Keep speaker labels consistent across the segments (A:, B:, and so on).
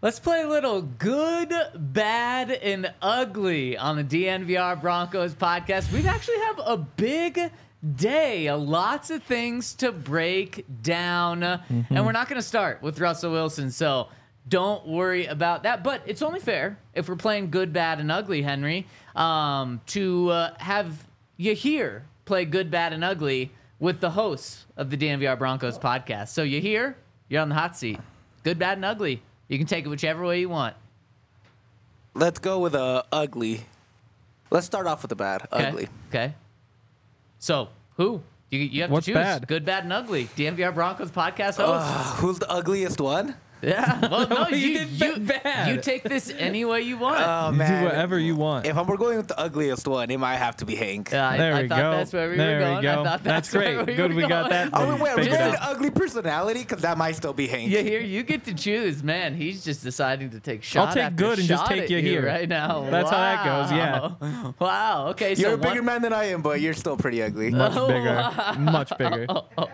A: Let's play a little good, bad, and ugly on the DNVR Broncos podcast. We actually have a big day, lots of things to break down, and we're not going to start with Russell Wilson, so don't worry about that. But it's only fair if we're playing good, bad, and ugly, Henry, to have you here play good, bad, and ugly with the hosts of the DNVR Broncos podcast. So you're here, you're on the hot seat. Good, bad, and ugly. You can take it whichever way you want.
B: Let's go with ugly. Let's start off with the bad.
A: Okay.
B: Ugly.
A: Okay. So, who? You have
C: What's
A: to choose.
C: bad?
A: Good, bad, and ugly. DNVR Broncos podcast host.
B: Who's the ugliest one?
A: Yeah. Well, no,
C: You did bad.
A: you take this any way you want.
B: Oh,
C: You
B: man.
C: do whatever you want.
B: If we're going with the ugliest one, it might have to be Hank.
A: I
C: There we
A: thought
C: go.
A: that's where we
C: There
A: were
C: we
A: going.
C: go.
A: I thought
C: That's
A: where
C: great. Good, we got
A: going.
C: that.
B: Oh, wait, are we
C: Figured
B: going
C: out.
B: to ugly personality? Because that might still be Hank.
A: You here? You get to choose, man. He's just deciding to take shot
C: take
A: after
C: good and just
A: shot
C: take
A: at
C: you here.
A: right now.
C: That's how that goes,
A: yeah. Wow. Okay.
B: You're
A: so
B: a bigger man than I am, but you're still pretty ugly.
C: Much bigger. Much bigger.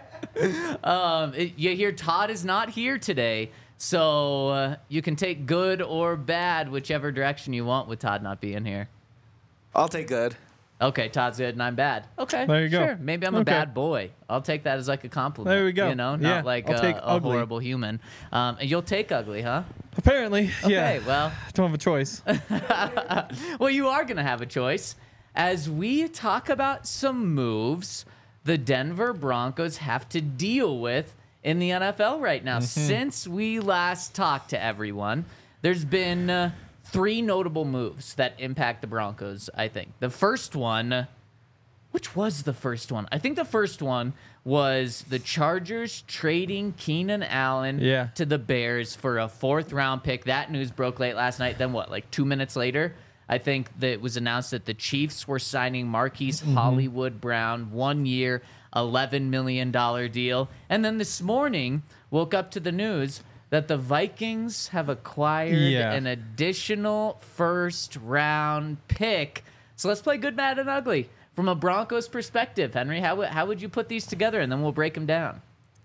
A: You hear Todd is not here today, so you can take good or bad, whichever direction you want with Todd not being here.
B: I'll take good.
A: Okay, Todd's good and I'm bad. Okay,
C: There you go.
A: Sure, maybe I'm a
C: Okay.
A: bad boy. I'll take that as like a compliment.
C: There we go.
A: You know, not
C: Yeah,
A: like
C: I'll take
A: a
C: ugly.
A: horrible human. And you'll take ugly, huh?
C: Apparently, yeah.
A: Okay, well,
C: Don't have a choice.
A: well, you are going to have a choice. As we talk about some moves the Denver Broncos have to deal with in the NFL right now. Since we last talked to everyone, there's been three notable moves that impact the Broncos, I think. The first one, which was the first one? I think the first one was the Chargers trading Keenan Allen
C: Yeah.
A: to the Bears for a fourth-round pick. That news broke late last night. Then what, like 2 minutes later, I think that it was announced that the Chiefs were signing Marquise Hollywood Brown, 1 year, $11 million deal. And then this morning, woke up to the news that the Vikings have acquired
C: Yeah.
A: an additional first-round pick. So let's play good, bad, and ugly. From a Broncos perspective, Henry, how would you put these together? And then we'll break them down.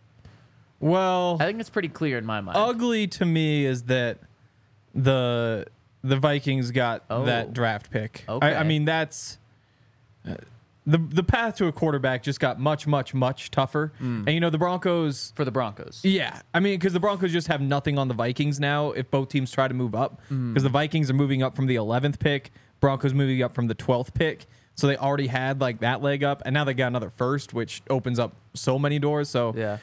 C: Well,
A: I think it's pretty clear in my mind.
C: ugly to me is that the Vikings got
A: Oh.
C: that draft pick.
A: Okay.
C: I mean, that's the path to a quarterback just got much, much, much tougher. And you know, the Broncos.
A: For the Broncos.
C: Yeah, I mean, because the Broncos just have nothing on the Vikings now if both teams try to move up. Because the Vikings are moving up from the 11th pick, Broncos moving up from the 12th pick. So they already had like that leg up, and now they got another first, which opens up so many doors. So
A: Yeah.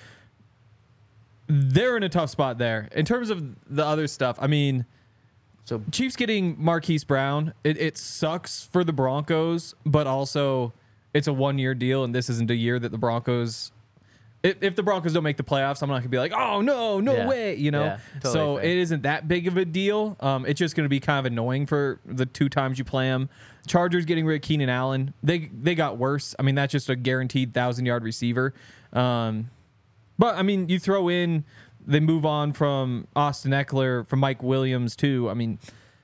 C: they're in a tough spot there. In terms of the other stuff, I mean,
A: So
C: Chiefs getting Marquise Brown, it sucks for the Broncos, but also it's a 1 year deal, and this isn't a year that the Broncos. If the Broncos don't make the playoffs, I'm not gonna be like, oh no
A: Yeah.
C: way, you know.
A: Yeah, totally
C: so
A: fair.
C: it isn't that big of a deal. It's just gonna be kind of annoying for the 2 times you play them. Chargers getting rid of Keenan Allen, they got worse. I mean, that's just a guaranteed 1,000-yard receiver. But I mean, you throw in, they move on from Austin Eckler, from Mike Williams too. I mean,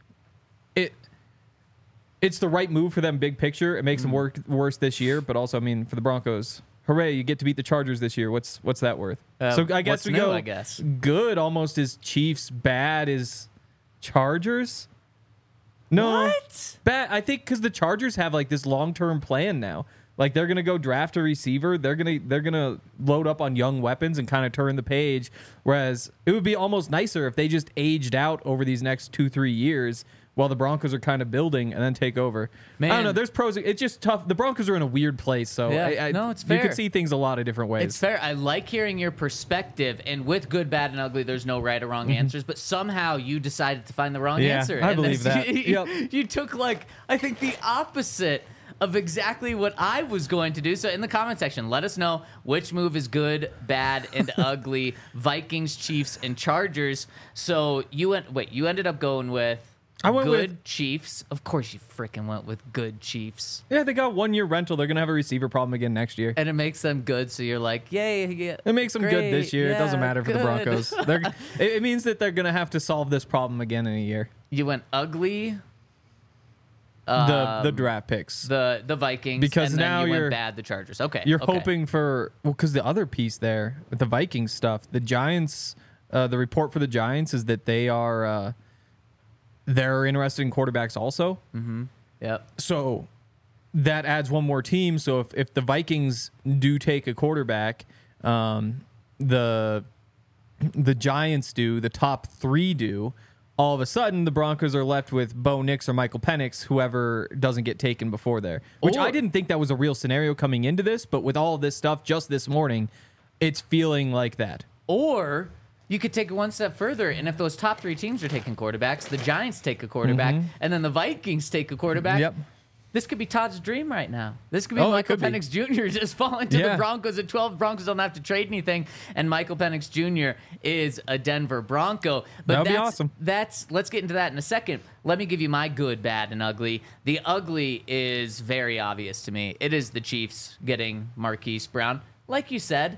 C: it's the right move for them big picture. It makes them work worse this year, but also, I mean, for the Broncos, hooray, you get to beat the Chargers this year. What's that worth? So I guess
A: what's
C: we
A: new,
C: go
A: I guess.
C: good almost is Chiefs, bad is Chargers. No,
A: What?
C: bad. I think because the Chargers have like this long-term plan now. Like they're gonna go draft a receiver. They're gonna load up on young weapons and kind of turn the page. Whereas it would be almost nicer if they just aged out over these next 2-3 years while the Broncos are kind of building and then take over.
A: Man.
C: I don't know. There's pros. It's just tough. The Broncos are in a weird place. So
A: Yeah. No, it's
C: You
A: fair.
C: could see things a lot of different ways.
A: It's fair. I like hearing your perspective. And with good, bad, and ugly, there's no right or wrong answers. But somehow you decided to find the wrong
C: Yeah,
A: answer.
C: I
A: And
C: believe that. Yep.
A: You took, like, I think the opposite of exactly what I was going to do. So in the comment section, let us know which move is good, bad, and ugly. Vikings, Chiefs, and Chargers. So you ended up going with
C: I went
A: good
C: with-
A: Chiefs. Of course you freaking went with good Chiefs.
C: Yeah, they got 1 year rental. They're gonna have a receiver problem again next year.
A: And it makes them good, so you're like, yay, yeah.
C: It makes them good this
A: great,
C: year. It doesn't
A: yeah,
C: matter for the
A: good.
C: Broncos. It means that they're gonna have to solve this problem again in a year.
A: You went ugly,
C: The draft picks.
A: the Vikings,
C: Because
A: and then
C: now
A: you went
C: you're-
A: bad, the Chargers. Okay,
C: You're
A: okay.
C: hoping for because the other piece there with the Vikings stuff, the Giants the report for the Giants is that they're interested in quarterbacks also.
A: Yep.
C: So that adds one more team. So if the Vikings do take a quarterback, the Giants do, the top three do, all of a sudden the Broncos are left with Bo Nix or Michael Penix, whoever doesn't get taken before there. Which I didn't think that was a real scenario coming into this, but with all of this stuff just this morning, it's feeling like that.
A: Or you could take it one step further, and if those top three teams are taking quarterbacks, the Giants take a quarterback, and then the Vikings take a quarterback.
C: Yep.
A: This could be Todd's dream right now. This could be
C: Oh, it
A: Michael
C: could be.
A: Penix Jr. just falling to the Broncos at 12. Broncos don't have to trade anything, and Michael Penix Jr. is a Denver Bronco. But
C: That would be awesome.
A: Let's get into that in a second. Let me give you my good, bad, and ugly. The ugly is very obvious to me. It is the Chiefs getting Marquise Brown. Like you said,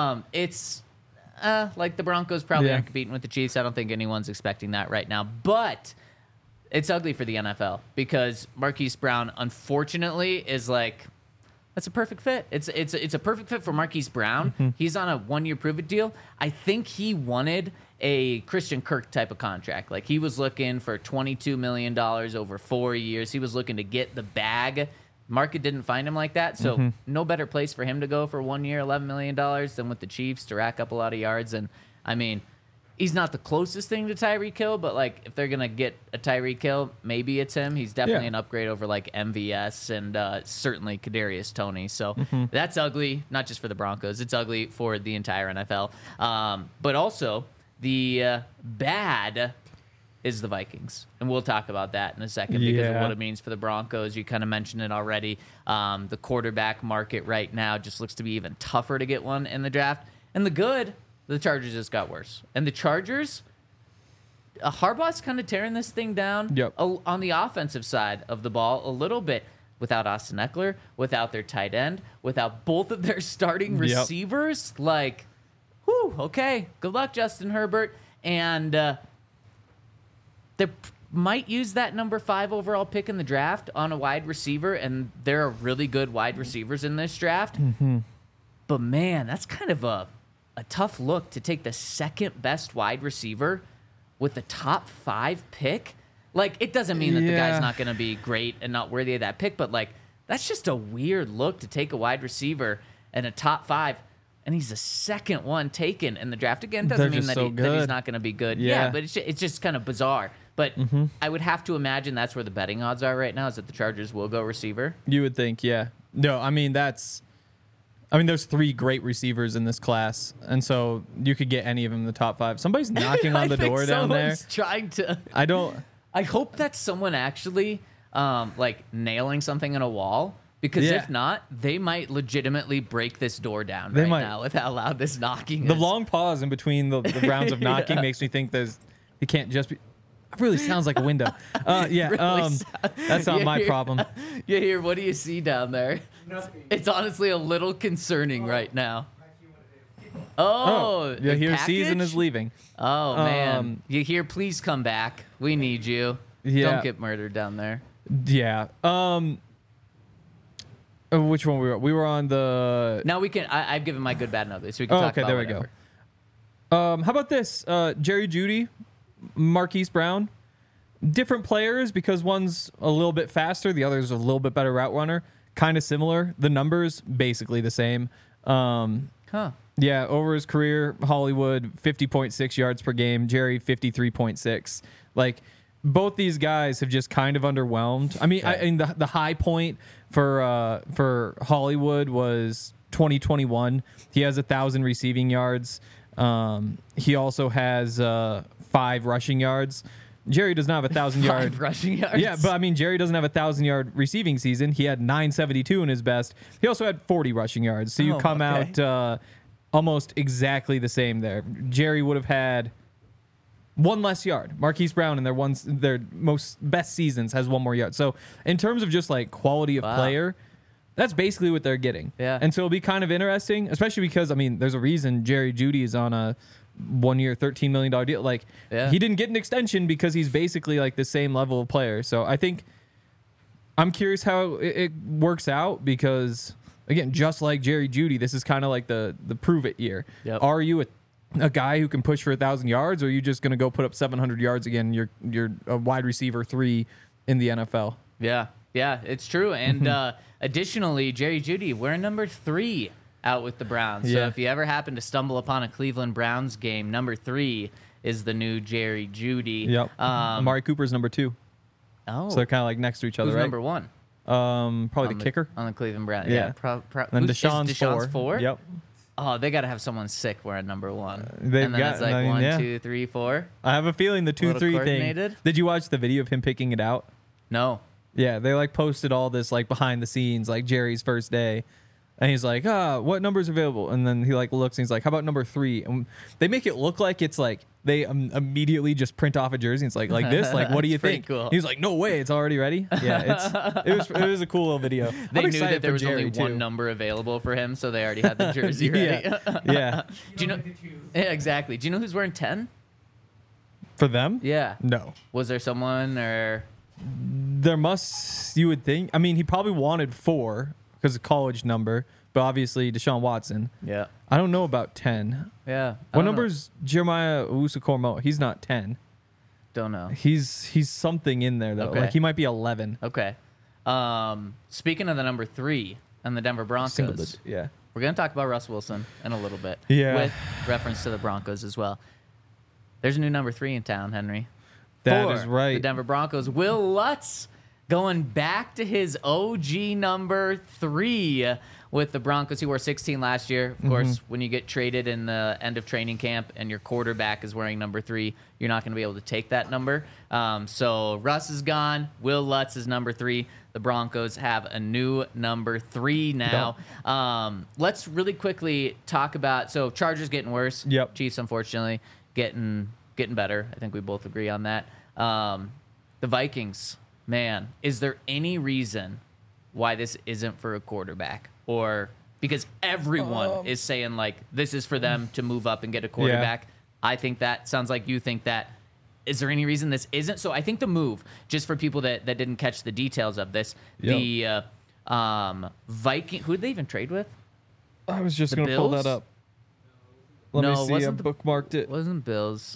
A: it's like the Broncos probably aren't competing with the Chiefs. I don't think anyone's expecting that right now. But it's ugly for the NFL because Marquise Brown, unfortunately, is like, that's a perfect fit. It's a perfect fit for Marquise Brown. He's on a 1-year prove-it deal. I think he wanted a Christian Kirk type of contract. Like, he was looking for $22 million over 4 years. He was looking to get the bag. Market didn't find him like that, so no better place for him to go for 1 year, $11 million than with the Chiefs to rack up a lot of yards. And, I mean, he's not the closest thing to Tyreek Hill, but, like, if they're going to get a Tyreek Hill, maybe it's him. He's definitely an upgrade over, like, MVS and certainly Kadarius Toney. So that's ugly, not just for the Broncos. It's ugly for the entire NFL. But also, the bad is the Vikings. And we'll talk about that in a second because of what it means for the Broncos. You kind of mentioned it already. The quarterback market right now just looks to be even tougher to get one in the draft. And the good, the Chargers just got worse. And the Chargers, Harbaugh's kind of tearing this thing down on the offensive side of the ball a little bit. Without Austin Eckler, without their tight end, without both of their starting receivers. Like, whew, okay, good luck, Justin Herbert. And they might use that number 5 overall pick in the draft on a wide receiver, and there are really good wide receivers in this draft. But, man, that's kind of a tough look to take the second best wide receiver with the top 5 pick. Like, it doesn't mean that the guy's not going to be great and not worthy of that pick, but, like, that's just a weird look to take a wide receiver and a top 5, and he's the second one taken in the draft. Again, doesn't mean that, that he's not going to be good. Yeah, but it's just kind of bizarre. But I would have to imagine that's where the betting odds are right now, is that the Chargers will go receiver.
C: You would think, yeah. No, I mean, there's 3 great receivers in this class, and so you could get any of them in the top 5. Somebody's knocking on the door down there.
A: Trying to.
C: I
A: hope that's someone actually like nailing something in a wall, because if not, they might legitimately break this door down now with how loud this knocking is.
C: The long pause in between the rounds of knocking makes me think it can't just be. It really sounds like a window. That's not my problem.
A: You hear, what do you see down there? Nothing. It's honestly a little concerning right now.
C: You hear season is leaving.
A: Oh, man. You hear, please come back. We need you. Don't get murdered down there.
C: Yeah. Which one we were? We were on the.
A: Now we can. I've given my good, bad, and ugly, so we can talk about
C: there
A: whatever.
C: we go. How about this? Jerry Jeudy, Marquise Brown, different players because one's a little bit faster, the other's a little bit better route runner. Kind of similar. The numbers basically the same. Yeah, over his career, Hollywood 50.6 yards per game, Jerry 53.6. Like, both these guys have just kind of underwhelmed. I mean, the high point for Hollywood was 2021. He has 1,000 receiving yards. He also has 5 rushing yards. Jerry does not have 1,000 yard
A: rushing yards.
C: Yeah, but I mean, Jerry doesn't have 1,000-yard receiving season. He had 972 in his best. He also had 40 rushing yards. So you come out almost exactly the same there. Jerry would have had 1 less yard. Marquise Brown in their most best seasons has 1 more yard. So in terms of just like quality of player, that's basically what they're getting.
A: Yeah.
C: And so it'll be kind of interesting, especially because, I mean, there's a reason Jerry Jeudy is on a 1-year, $13 million deal. Like, he didn't get an extension because he's basically like the same level of player. So I think I'm curious how it works out because, again, just like Jerry Jeudy, this is kind of like the prove it year.
A: Yep.
C: Are you a a guy who can push for 1,000 yards, or are you just going to go put up 700 yards again? You're a wide receiver 3 in the NFL.
A: Yeah, it's true. And additionally, Jerry Jeudy, we're number 3 out with the Browns. So
C: Yeah.
A: if you ever happen to stumble upon a Cleveland Browns game, number 3 is the new Jerry Jeudy.
C: Yep. Amari Cooper's number 2.
A: Oh,
C: So they're kind of like next to each other,
A: who's
C: right?
A: number 1?
C: Probably
A: On
C: the kicker.
A: on the Cleveland Browns.
C: Yeah.
A: Then
C: Then Deshaun's
A: Deshaun's 4?
C: Yep.
A: Oh, they got to have someone sick wearing number 1.
C: They've
A: and then
C: got-
A: it's like
C: I mean,
A: 1,
C: yeah.
A: 2, 3, 4.
C: I have a feeling the
A: little
C: 2-3 thing.
A: coordinated.
C: Did you watch the video of him picking it out?
A: No.
C: Yeah, they like posted all this like behind the scenes, like Jerry's first day. And he's like, what number's available? And then he like looks and he's like, how about number 3? And they make it look like it's like they immediately just print off a jersey. And it's like this. Like, what do you
A: That's pretty
C: think?
A: cool.
C: He's like, no way, it's already ready. Yeah, it was a cool little video.
A: They
C: I'm
A: knew
C: excited
A: that there
C: for
A: was
C: Jerry,
A: only
C: too.
A: one number available for him, so they already had the jersey ready.
C: Yeah.
A: Do you know? Yeah, exactly. Do you know who's wearing 10?
C: For them?
A: Yeah.
C: No.
A: Was there someone or?
C: There must, you would think. I mean, he probably wanted 4 because of college number, but obviously Deshaun Watson.
A: Yeah.
C: I don't know about 10.
A: Yeah. I
C: What
A: don't know.
C: number's Jeremiah Owusu-Koramoah? He's not 10.
A: Don't know.
C: He's something in there though.
A: Okay.
C: Like he might be 11.
A: Okay. Speaking of the number 3 and the Denver Broncos,
C: Yeah.
A: we're gonna talk about Russ Wilson in a little bit.
C: Yeah.
A: With reference to the Broncos as well. There's a new number 3 in town, Henry.
C: That
A: For
C: is right.
A: The Denver Broncos. Will Lutz going back to his OG number 3 with the Broncos. He wore 16 last year. Of course, when you get traded in the end of training camp and your quarterback is wearing number 3, you're not going to be able to take that number. So Russ is gone. Will Lutz is number 3. The Broncos have a new number 3 now. Let's really quickly talk about, so Chargers getting worse.
C: Yep.
A: Chiefs, unfortunately, getting better. I think we both agree on that. The Vikings, man, is there any reason why this isn't for a quarterback? Or because everyone is saying, like, this is for them to move up and get a quarterback. I think that sounds like you think that. Is there any reason this isn't? So I think the move, just for people that didn't catch the details of this,
C: Yep.
A: the Viking, who did they even trade with?
C: I was just
A: The
C: going to pull
A: Bills?
C: that up. Let
A: No,
C: me
A: it
C: see. I
A: wasn't the-
C: bookmarked it.
A: Wasn't Bills.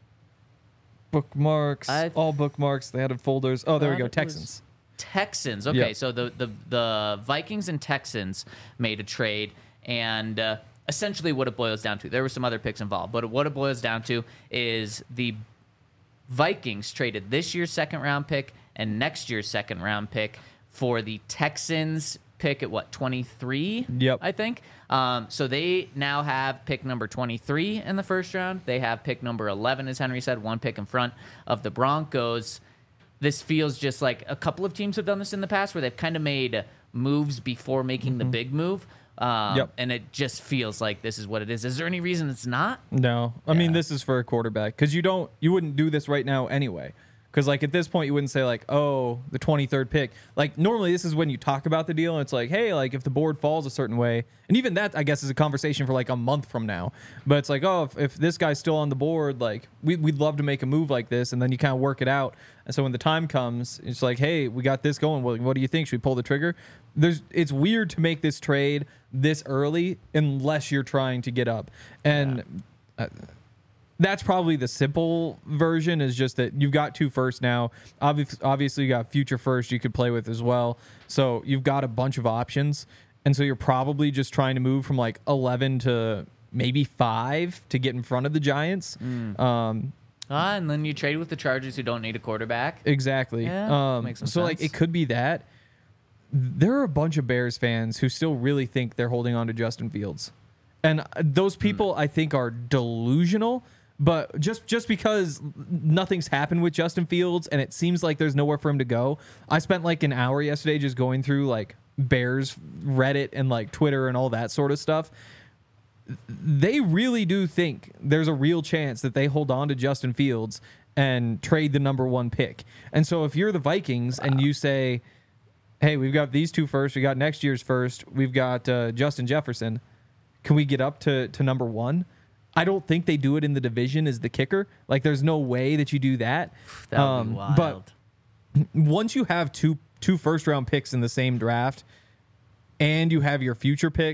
C: Bookmarks.
A: I-
C: All bookmarks. They added folders. Oh, there we
A: thought
C: go.
A: it
C: Texans.
A: Texans. Okay,
C: Yep.
A: so the Vikings and Texans made a trade, and essentially what it boils down to, there were some other picks involved, but what it boils down to is the Vikings traded this year's second-round pick and next year's second-round pick for the Texans pick at 23?
C: Yep.
A: I think. So they now have pick number 23 in the first round. They have pick number 11, as Henry said, one pick in front of the Broncos. This feels just like a couple of teams have done this in the past where they've kind of made moves before making the big move.
C: Yep.
A: And it just feels like this is what it is. Is there any reason it's not?
C: No, I mean
A: Yeah.
C: this is for a quarterback because you wouldn't do this right now anyway. Because like at this point you wouldn't say like, oh, the 23rd pick. Like normally this is when you talk about the deal and it's like, hey, like if the board falls a certain way, and even that I guess is a conversation for like a month from now. But it's like, oh, if this guy's still on the board, like we'd love to make a move like this, and then you kind of work it out. And so when the time comes, it's like, hey, we got this going. What do you think? Should we pull the trigger? It's weird to make this trade this early unless you're trying to get up. And that's probably the simple version, is just that you've got 2 firsts now. Obviously, you got future first you could play with as well. So you've got a bunch of options. And so you're probably just trying to move from like 11 to maybe 5 to get in front of the Giants.
A: And then you trade with the Chargers who don't need a quarterback.
C: Exactly.
A: Yeah, makes some
C: so like
A: sense.
C: it could be that. There are a bunch of Bears fans who still really think they're holding on to Justin Fields. And those people I think are delusional, but just because nothing's happened with Justin Fields and it seems like there's nowhere for him to go. I spent like an hour yesterday just going through like Bears Reddit and like Twitter and all that sort of stuff. They really do think there's a real chance that they hold on to Justin Fields and trade the number 1 pick. And so if you're the Vikings and you say, hey, we've got these 2 firsts, we got next year's first, we've got Justin Jefferson, can we get up to number 1? I don't think they do it in the division as the kicker. Like there's no way that you do that.
A: That would be wild.
C: But once you have two first round picks in the same draft and you have your future picks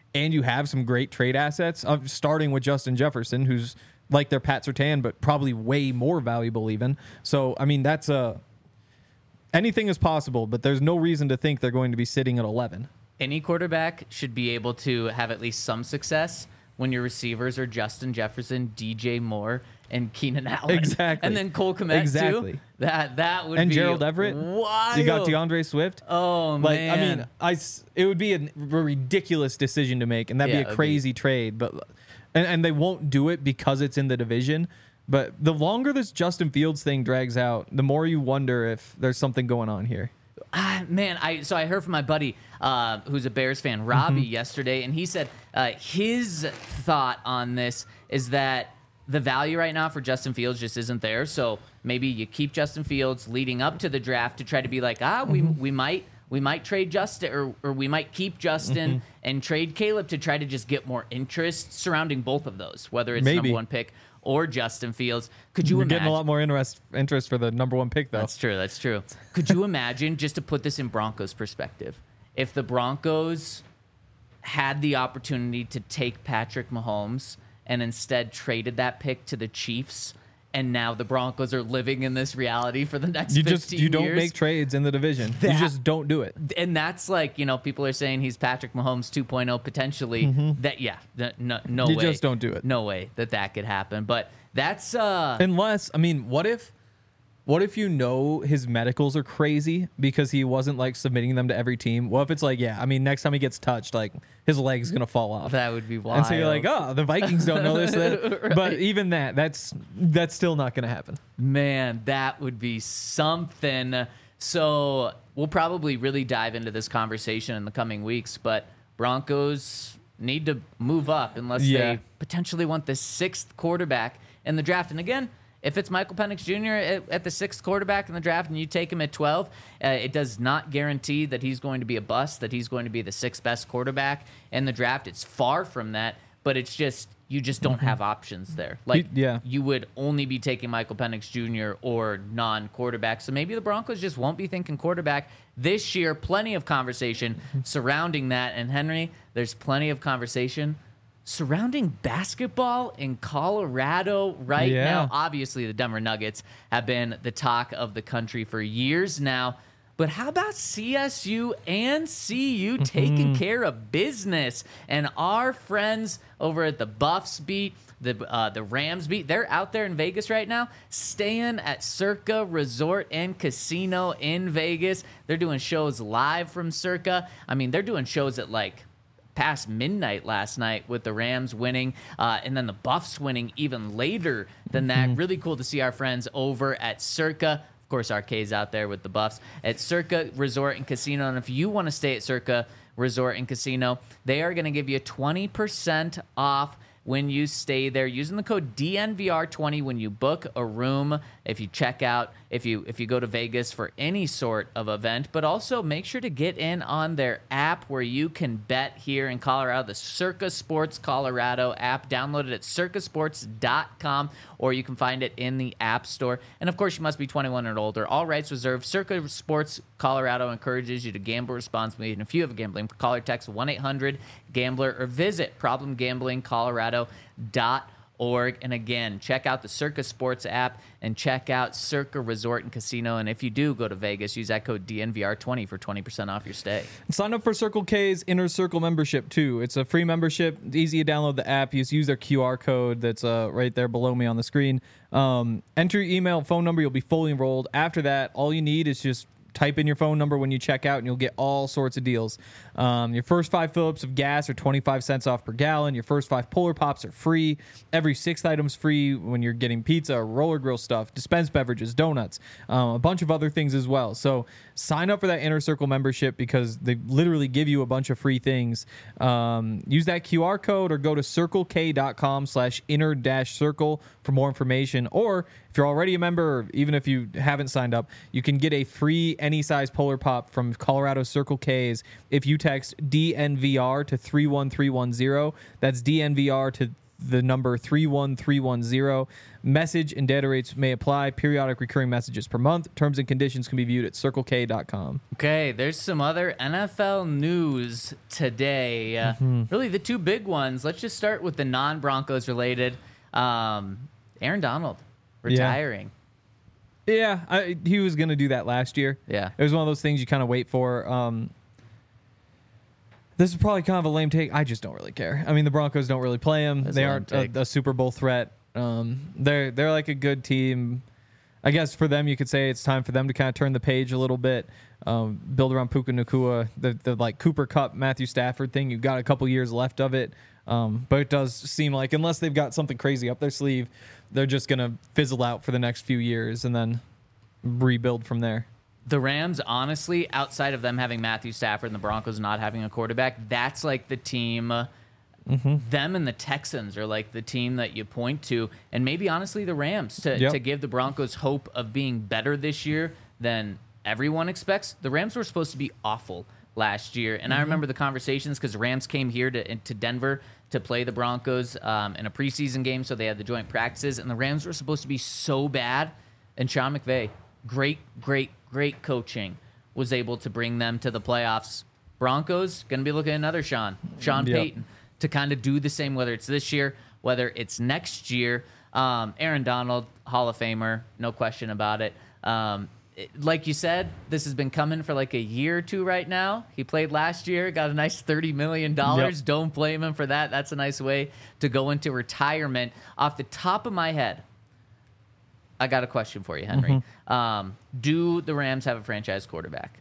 C: and you have some great trade assets, starting with Justin Jefferson, who's like their Pat Surtain, but probably way more valuable even. So, I mean, that's anything is possible, but there's no reason to think they're going to be sitting at 11.
A: Any quarterback should be able to have at least some success when your receivers are Justin Jefferson, DJ Moore, and Keenan Allen.
C: Exactly.
A: And then Cole Kmet,
C: exactly.
A: too. That would
C: And
A: be
C: Gerald Everett.
A: wild.
C: You got DeAndre Swift.
A: Oh, man.
C: I mean, it would be a ridiculous decision to make, and that'd
A: Yeah,
C: be a crazy trade. But and they won't do it because it's in the division. But the longer this Justin Fields thing drags out, the more you wonder if there's something going on here.
A: Man, I heard from my buddy who's a Bears fan, Robbie, yesterday, and he said his thought on this is that the value right now for Justin Fields just isn't there. So maybe you keep Justin Fields leading up to the draft to try to be like, we might trade Justin or we might keep Justin and trade Caleb to try to just get more interest surrounding both of those, whether it's number one pick or Justin Fields. Could you
C: You're
A: imagine?
C: getting a lot more interest for the number one pick, though.
A: That's true. Could you imagine, just to put this in Broncos perspective, if the Broncos had the opportunity to take Patrick Mahomes and instead traded that pick to the Chiefs, and now the Broncos are living in this reality for the next 15 years?
C: You don't make trades in the division. You just don't do it.
A: And that's like, people are saying he's Patrick Mahomes 2.0 potentially. No way.
C: You just don't do it.
A: No way that could happen. But that's
C: unless, I mean, what if his medicals are crazy because he wasn't like submitting them to every team? What if it's like, next time he gets touched, like his leg's gonna fall off?
A: That would be wild.
C: And so you're like, oh, the Vikings don't know this.
A: Right.
C: But even that's still not gonna happen.
A: Man, that would be something. So we'll probably really dive into this conversation in the coming weeks, but Broncos need to move up unless they potentially want the 6th quarterback in the draft. And again, if it's Michael Penix Jr. at the 6th quarterback in the draft and you take him at 12, it does not guarantee that he's going to be a bust, that he's going to be the 6th best quarterback in the draft. It's far from that, but it's just, you just don't have options there. Like, you would only be taking Michael Penix Jr. or non-quarterback. So maybe the Broncos just won't be thinking quarterback this year. Plenty of conversation surrounding that. And Henry, there's plenty of conversation surrounding basketball in Colorado right now. Obviously, the Denver Nuggets have been the talk of the country for years now. But how about CSU and CU taking care of business? And our friends over at the Buffs beat, the Rams beat, they're out there in Vegas right now, staying at Circa Resort and Casino in Vegas. They're doing shows live from Circa. I mean, they're doing shows at like past midnight last night with the Rams winning and then the Buffs winning even later than that. Really cool to see our friends over at Circa. Of course, RK's out there with the Buffs at Circa Resort and Casino. And if you want to stay at Circa Resort and Casino, they are going to give you 20% off when you stay there using the code DNVR20 when you book a room, if you check out, if you go to Vegas for any sort of event. But also make sure to get in on their app where you can bet here in Colorado, the Circa Sports Colorado app. Download it at circasports.com, or you can find it in the App Store. And of course, you must be 21 and older. All rights reserved. Circa Sports Colorado encourages you to gamble responsibly. And if you have a gambling, call or text 1-800-GAMBLER or visit problemgamblingcolorado.org. And again, check out the Circa Sports app and check out Circa Resort and Casino. And if you do go to Vegas, use that code DNVR20 for 20% off your stay.
C: Sign up for Circle K's Inner Circle membership too. It's a free membership. It's easy to download the app. You just use their QR code that's right there below me on the screen. Enter your email, phone number. You'll be fully enrolled. After that, all you need is just type in your phone number when you check out, and you'll get all sorts of deals. Your first 5 fill-ups of gas are 25 cents off per gallon. Your first 5 Polar Pops are free. Every 6th item's free when you're getting pizza, roller grill stuff, dispensed beverages, donuts, a bunch of other things as well. So sign up for that Inner Circle membership because they literally give you a bunch of free things. Use that QR code or go to circlek.com/inner-circle for more information. Or if you're already a member, or even if you haven't signed up, you can get a free any size Polar Pop from Colorado Circle K's if you text DNVR to 31310. That's DNVR to the number 31310. Message and data rates may apply. Periodic recurring messages per month. Terms and conditions can be viewed at circlek.com.
A: Okay, there's some other NFL news today. Really, the two big ones. Let's just start with the non-Broncos related. Aaron Donald retiring.
C: Yeah, he was going to do that last year.
A: Yeah.
C: It was one of those things you kind of wait for. This is probably kind of a lame take. I just don't really care. I mean, the Broncos don't really play him.
A: That's
C: They
A: a lame
C: aren't
A: take.
C: a Super Bowl threat. They're like a good team. I guess for them, you could say it's time for them to kind of turn the page a little bit, build around Puka Nacua, the like Cooper Kupp, Matthew Stafford thing. You've got a couple years left of it. But it does seem like unless they've got something crazy up their sleeve, they're just going to fizzle out for the next few years and then rebuild from there.
A: The Rams, honestly, outside of them having Matthew Stafford and the Broncos not having a quarterback, that's like the team. Them and the Texans are like the team that you point to, and maybe honestly the Rams to give the Broncos hope of being better this year than everyone expects. The Rams were supposed to be awful last year, and I remember the conversations because the Rams came here to Denver to play the Broncos in a preseason game, so they had the joint practices, and the Rams were supposed to be so bad, and Sean McVay, great coaching, was able to bring them to the playoffs. Broncos going to be looking at another Sean Payton to kind of do the same, whether it's this year, whether it's next year. Aaron Donald, Hall of Famer, no question about it. Like you said, this has been coming for like a year or two right now. He played last year, got a nice $30 million.
C: Yep. Don't
A: blame him for that. That's a nice way to go into retirement. Off the top of my head, I got a question for you, Henry. Do the Rams have a franchise quarterback?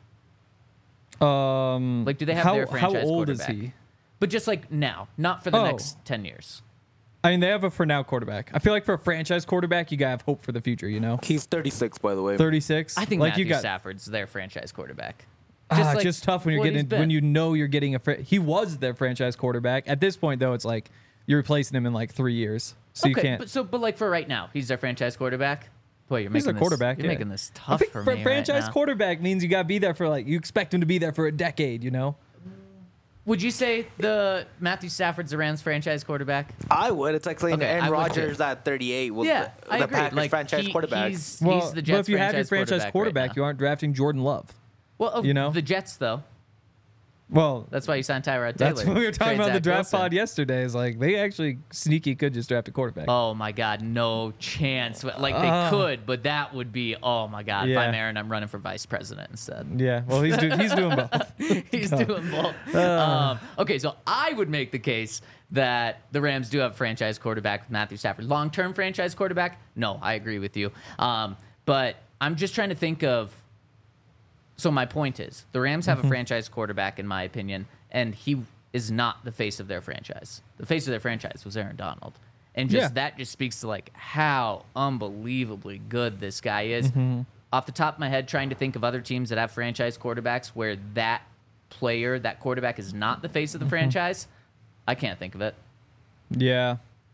C: Like,
A: do they have their franchise
C: how old
A: quarterback?
C: is he?
A: But just like now, not for the next 10 years.
C: I mean, they have a for now quarterback. I feel like for a franchise quarterback, you gotta have hope for the future. You know,
B: He's 36, by the way.
C: 36.
A: I think
C: like
A: Matthew
C: you got
A: Stafford's their franchise quarterback.
C: just tough when you're
A: what he's
C: getting when
A: been.
C: you know you're getting he was their franchise quarterback. At this point, though, it's like you're replacing him in like 3 years, so you can't.
A: But like for right now, he's their franchise quarterback. Boy,
C: He's a quarterback.
A: You're making this
C: I
A: tough
C: think
A: for
C: for
A: me
C: franchise
A: right now.
C: quarterback means you gotta be there for you expect him to be there for a decade. You know.
A: Would you say the Matthew Stafford's the Rams franchise quarterback?
B: I would. It's like saying
A: Okay,
B: Aaron
A: I would
B: Rodgers at 38 was
A: Yeah, I
B: the
A: agree.
B: Packers
A: Like,
B: franchise quarterback.
A: He's
C: Well,
A: the Jets
C: but if you have your franchise
A: right
C: quarterback,
A: now.
C: you aren't drafting Jordan Love.
A: Well,
C: you know?
A: the Jets though.
C: Well,
A: That's why you signed Tyrod Taylor.
C: that's what we were talking
A: Trade
C: about the
A: Zach
C: draft
A: Wilson.
C: pod yesterday. Is like they actually sneaky could just draft a quarterback.
A: Oh my God, no chance. Like they could, but that would be. Oh my God, if
C: Yeah.
A: I'm Aaron, I'm running for vice president instead.
C: Yeah, well, he's doing both.
A: He's doing both. Okay, so I would make the case that the Rams do have a franchise quarterback with Matthew Stafford. Long-term franchise quarterback? No, I agree with you. But I'm just trying to think of. So my point is, the Rams have a franchise quarterback, in my opinion, and he is not the face of their franchise. The face of their franchise was Aaron Donald. And just that just speaks to like how unbelievably good this guy is. Off the top of my head, trying to think of other teams that have franchise quarterbacks where that player, that quarterback is not the face of the franchise, I can't think of it.
C: Yeah.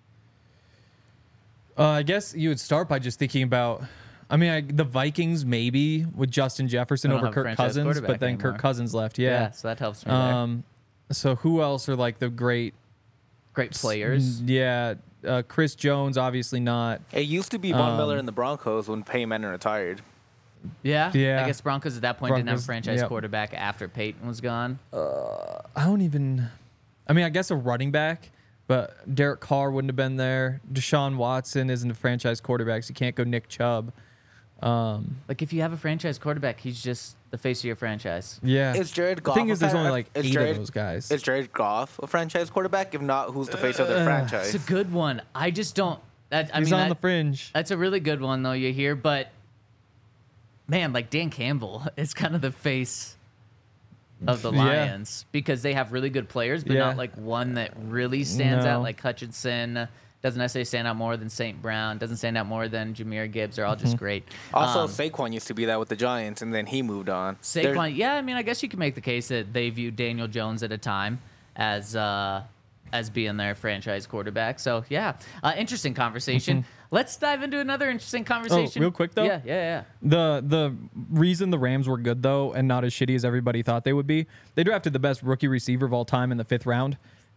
C: I guess you would start by just thinking about. I mean, the Vikings maybe with Justin Jefferson
A: They don't
C: over
A: have a
C: Kirk
A: franchise
C: Cousins,
A: quarterback
C: but then
A: anymore.
C: Kirk Cousins left. Yeah.
A: So that helps me there.
C: So who else are like the great?
A: Great players.
C: Yeah. Chris Jones, obviously not.
B: It used to be Von Miller in the Broncos when Peyton Manning retired.
A: Yeah.
C: Yeah.
A: I guess Broncos at that point didn't have a
C: Broncos,
A: franchise
C: yep.
A: quarterback after Peyton was gone.
C: I mean, I guess a running back, but Derek Carr wouldn't have been there. Deshaun Watson isn't a franchise quarterback, so you can't go Nick Chubb.
A: Like if you have a franchise quarterback, he's just the face of your franchise.
C: Yeah.
B: Is Jared Goff?
C: The thing is, there's only like
B: is
C: 8
B: Jared-
C: of those guys.
B: Is Jared Goff a franchise quarterback? If not, who's the face of their franchise?
A: It's a good one. I just don't.
C: He's on the fringe.
A: That's a really good one, though, you hear. But, man, like Dan Campbell is kind of the face of the
C: Yeah.
A: Lions because they have really good players, but
C: Yeah.
A: not like one that really stands
C: No.
A: out. Like Hutchinson doesn't necessarily stand out more than St. Brown, doesn't stand out more than Jahmyr Gibbs. They're all just great.
B: Also, Saquon used to be that with the Giants, and then he moved on.
A: Saquon, yeah, I mean, I guess you can make the case that they viewed Daniel Jones at a time as being their franchise quarterback. So, yeah, interesting conversation. Let's dive into another interesting conversation.
C: real quick, though?
A: Yeah.
C: The reason the Rams were good, though, and not as shitty as everybody thought they would be, they drafted the best rookie receiver of all time in the 5th round.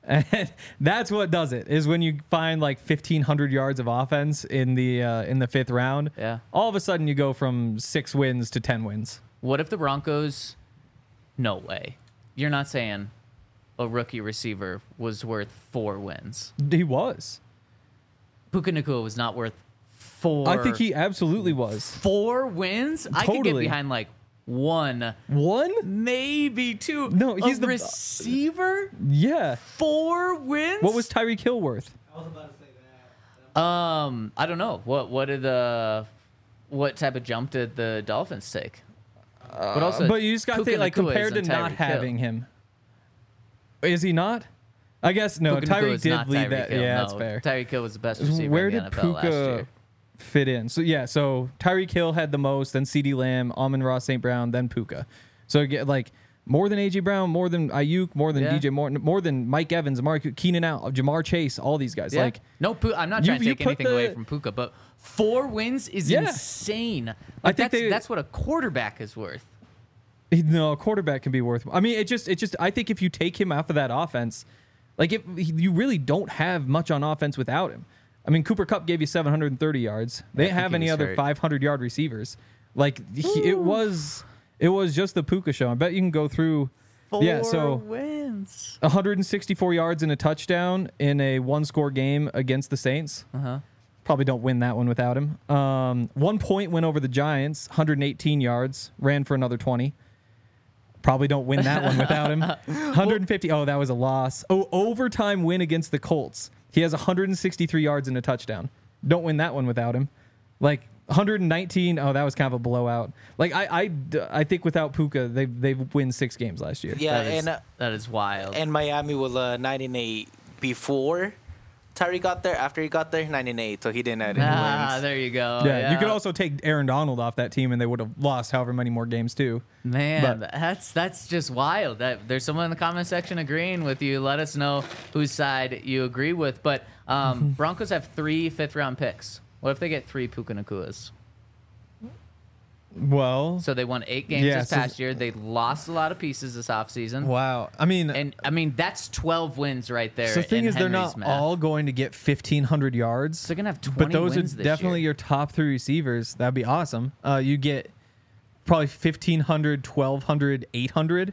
C: And that's what does it, is when you find like 1,500 yards of offense in the fifth round.
A: Yeah.
C: All of a sudden you go from 6 wins to 10 wins.
A: What if the Broncos? No way. You're not saying a rookie receiver was worth 4 wins.
C: He was.
A: Puka Nacua was not worth 4.
C: I think he absolutely was.
A: 4 wins? I could get
C: Totally.
A: behind like 1,
C: 1?
A: maybe 2.
C: No, he's
A: a
C: the
A: receiver.
C: Yeah.
A: 4 wins.
C: What was Tyreek Hill worth?
D: I was about to say that.
A: I don't know. What type of jump did the Dolphins take? But also,
C: But you just got to
A: Puka
C: think, like,
A: Nacua
C: compared to
A: isn't
C: not
A: Tyreek Hill.
C: having him. Is he not? I guess no.
A: Puka Nacua
C: Tyreek
A: is
C: did
A: not
C: lead
A: Tyreek
C: that.
A: Hill,
C: Yeah,
A: no.
C: that's fair.
A: Tyreek Hill was the best receiver
C: Where
A: in the
C: did
A: NFL last
C: Puka
A: year.
C: fit in? So yeah, so Tyreek Hill had the most, then CeeDee Lamb, Amon-Ra St. Brown, then Puka. So again, like more than AJ Brown, more than Ayuk, more than
A: Yeah.
C: DJ Morton, more than Mike Evans, Keenan Allen, Jamar Chase, all these guys.
A: Yeah.
C: Like
A: No, I'm not
C: you-
A: trying to
C: you
A: take
C: put
A: anything away
C: the-
A: from Puka, but 4 wins is
C: Yeah.
A: insane.
C: I
A: Like,
C: think
A: that's what a quarterback is worth.
C: no, a quarterback can be worth. I mean, it just. I think if you take him off of that offense, like you really don't have much on offense without him. I mean, Cooper Kupp gave you 730 yards. They
A: I
C: didn't
A: think
C: have
A: he
C: any
A: was
C: other
A: hurt.
C: 500-yard receivers. Like it was just the Puka show. I bet you can go through.
A: 4
C: Yeah, so
A: wins.
C: 164 yards and a touchdown in a 1-score game against the Saints.
A: Uh-huh.
C: Probably don't win that one without him. 1 point win over the Giants, 118 yards, ran for another 20. Probably don't win that one without him. 150. Oh, that was a loss. Oh, overtime win against the Colts. He has 163 yards and a touchdown. Don't win that one without him. Like 119. Oh, that was kind of a blowout. Like I think without Puka, they win 6 games last year.
B: Yeah,
A: That is wild.
B: and Miami was 9-8 before Tyree got there. After he got there, 9-8, so he didn't have any wins.
A: There you go.
C: Yeah, you could also take Aaron Donald off that team, and they would have lost however many more games too.
A: Man,
C: But-
A: that's just wild. There's someone in the comment section agreeing with you. Let us know whose side you agree with. But Broncos have 3 fifth-round picks. What if they get 3 Puka Nacuas?
C: Well,
A: So they won 8 games
C: Yeah,
A: this
C: so-
A: past year. They lost a lot of pieces this offseason.
C: wow. I mean,
A: And, I mean, that's 12 wins right there.
C: so the thing
A: in
C: is, they're
A: Henry's
C: not
A: math.
C: all going to get 1,500 yards.
A: So they're going to have 20
C: But those are
A: wins this
C: definitely
A: year.
C: your top 3 receivers. That'd be awesome. You get probably 1,500, 1,200, 800.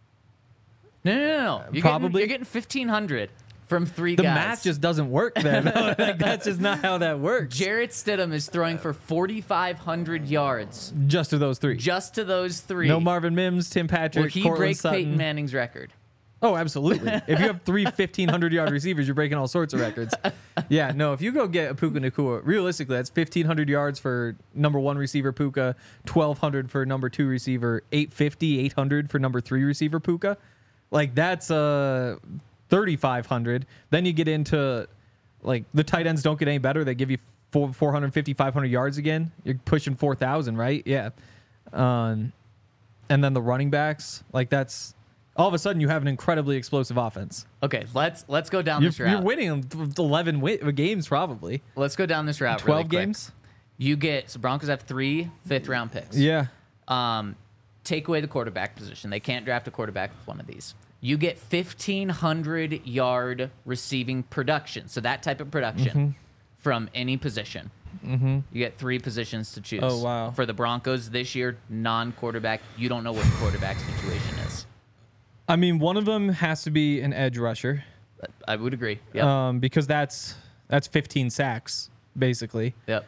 A: No.
C: Probably.
A: You're getting 1,500 from 3
C: The
A: guys.
C: math just doesn't work then. Like, that's just not how that works.
A: Jarrett Stidham is throwing for 4,500 yards
C: Just to those 3.
A: just to those 3.
C: No Marvin Mims, Tim Patrick,
A: Will he
C: Cortland
A: break
C: Sutton.
A: Peyton Manning's record?
C: Oh, absolutely. If you have 3 1,500-yard receivers, you're breaking all sorts of records. Yeah, no, if you go get a Puka Nacua, realistically, that's 1,500 yards for number 1 receiver Puka, 1,200 for number 2 receiver, 850, 800 for number 3 receiver Puka. Like, that's 3,500. Then you get into, like, the tight ends don't get any better. They give you 450, 500 yards again. You're pushing 4,000, right? Yeah. And then the running backs, like, that's... All of a sudden, you have an incredibly explosive offense.
A: Okay, let's go down this route.
C: You're winning 11 games, probably.
A: Let's go down this route.
C: 12
A: really quick.
C: games?
A: You get so Broncos have 3 fifth-round picks.
C: Yeah.
A: Take away the quarterback position. They can't draft a quarterback with one of these. You get 1,500 yard receiving production. So that type of production
C: Mm-hmm.
A: from any position. Mm-hmm. You get 3 positions to choose.
C: Oh, wow.
A: For the Broncos this year, non-quarterback. You don't know what the quarterback situation is.
C: I mean, one of them has to be an edge rusher
A: I would agree. Yep.
C: because that's 15 sacks, basically.
A: Yep.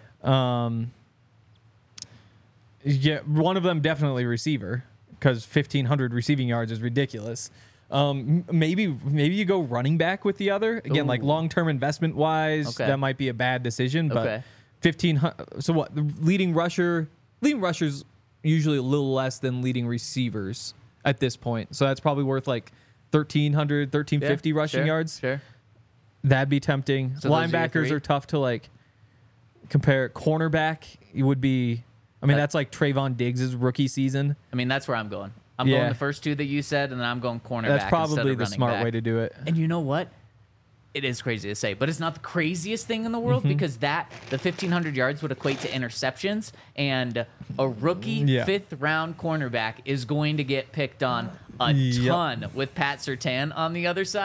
C: Yeah, one of them definitely receiver because 1,500 receiving yards is ridiculous. Maybe you go running back with the other. Again, like
A: Ooh.
C: long-term investment wise,
A: Okay.
C: that might be a bad decision. But
A: Okay.
C: 1,500. So what? The leading rushers usually a little less than leading receivers at this point. So that's probably worth like 1,300, 1,350
A: Yeah,
C: rushing
A: sure,
C: yards.
A: Sure.
C: That'd be tempting.
A: So those are your
C: Linebackers
A: 3?
C: are tough to like compare. Cornerback, it would be. I mean,
A: That-
C: that's like Trayvon Diggs' rookie season.
A: I mean, that's where I'm going. I'm
C: Yeah.
A: going the first 2 that you said, and then I'm going cornerback.
C: That's
A: instead
C: probably
A: of
C: the
A: running
C: smart
A: back.
C: way to do it.
A: And you know what? It is crazy to say, but it's not the craziest thing in the world
C: Mm-hmm.
A: because the 1,500 yards would equate to interceptions, and a rookie
C: Yeah.
A: 5th-round cornerback is going to get picked on a
C: Yep.
A: ton with Pat Surtain on the other side.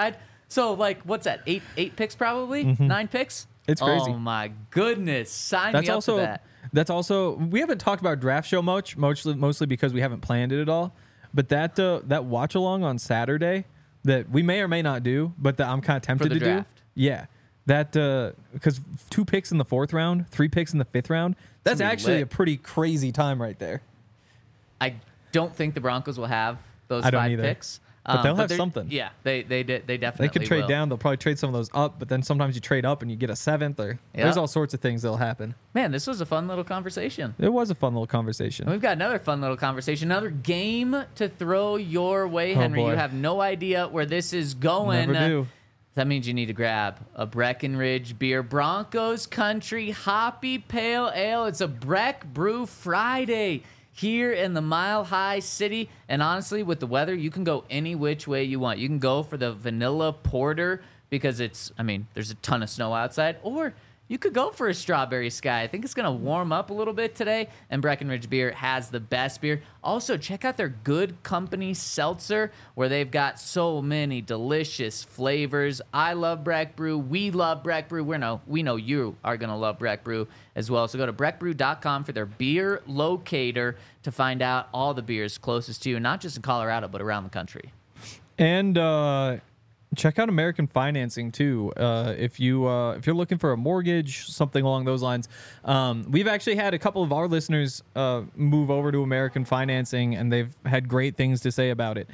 A: So like, what's that? Eight picks probably? 9 picks?
C: It's crazy.
A: Oh my goodness! Sign
C: That's
A: me up
C: also
A: for that.
C: that's also we haven't talked about draft show mostly because we haven't planned it at all. But that watch along on Saturday that we may or may not do, but that I'm kind of tempted
A: the
C: to
A: draft.
C: do. Yeah, that because 2 picks in the 4th round, 3 picks in the 5th round. That's
A: gonna be
C: actually
A: lit.
C: a pretty crazy time right there.
A: I don't think the Broncos will have those
C: I don't
A: 5
C: either.
A: picks.
C: But they'll have
A: they're-
C: something.
A: Yeah, they definitely
C: They could trade
A: will.
C: down. They'll probably trade some of those up, but then sometimes you trade up and you get a 7th. Or
A: Yeah.
C: there's all sorts of things that'll happen.
A: Man, this was a fun little conversation.
C: It was a fun little
A: And
C: conversation.
A: we've got another fun little conversation, another game to throw your way, Henry.
C: boy.
A: You have no idea where this is going.
C: Never do.
A: That means you need to grab a Breckenridge beer. Broncos Country Hoppy Pale Ale. It's a Breck Brew Friday here in the Mile High City. And honestly, with the weather, you can go any which way you want. You can go for the vanilla porter because there's a ton of snow outside. Or you could go for a strawberry sky. I think it's going to warm up a little bit today. And Breckenridge Beer has the best beer. Also, check out their Good Company Seltzer, where they've got so many delicious flavors. I love Breck Brew. We love Breck Brew. We know you are going to love Breck Brew as well. So go to breckbrew.com for their beer locator to find out all the beers closest to you, not just in Colorado, but around the country.
C: And check out American Financing too. If you're looking for a mortgage, something along those lines. We've actually had a couple of our listeners move over to American Financing, and they've had great things to say about it.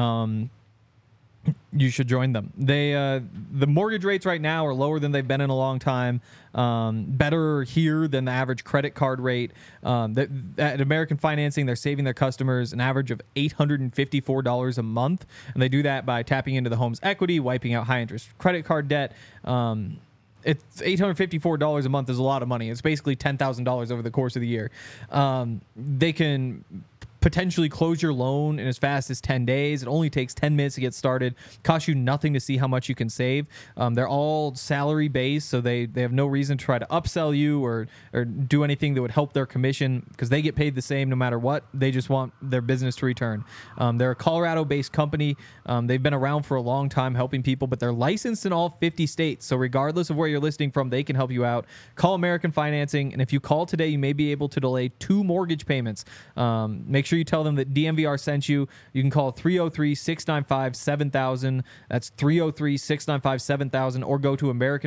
C: You should join them. The mortgage rates right now are lower than they've been in a long time. Better here than the average credit card rate. At American Financing, they're saving their customers an average of $854 a month, and they do that by tapping into the home's equity, wiping out high interest credit card debt. It's $854 a month is a lot of money. It's basically $10,000 over the course of the year. They can potentially close your loan in as fast as 10 days. It only takes 10 minutes to get started. Costs you nothing to see how much you can save. They're all salary based, so they have no reason to try to upsell you or do anything that would help their commission because they get paid the same no matter what. They just want their business to return. They're a Colorado-based company. They've been around for a long time helping people, but they're licensed in all 50 states. So regardless of where you're listing from, they can help you out. Call American Financing, and if you call today, you may be able to delay 2 mortgage payments. Make sure you tell them that DNVR sent you. You can call 303-695-7000. That's 303-695-7000, or go to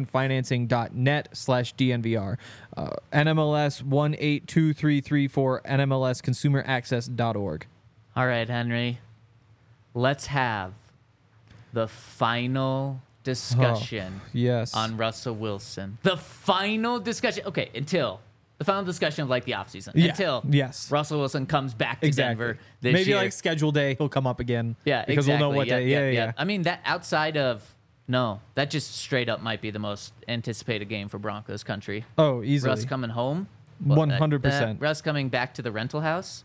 C: americanfinancing.net/DNVR. NMLS 182334, NMLSconsumeraccess.org.
A: All right, Henry. Let's have the final discussion
C: Yes.
A: on Russell Wilson. The final discussion. Okay, until the final discussion of like the offseason.
C: Yeah,
A: Until
C: yes.
A: Russell Wilson comes back to
C: Exactly.
A: Denver this
C: Maybe
A: year.
C: like schedule day, he'll come up again.
A: Yeah,
C: because
A: exactly.
C: we'll know what day. Yeah.
A: I mean, that outside of that just straight up might be the most anticipated game for Broncos country.
C: Oh, easily.
A: Russ coming home.
C: 100%.
A: Russ coming back to the rental house.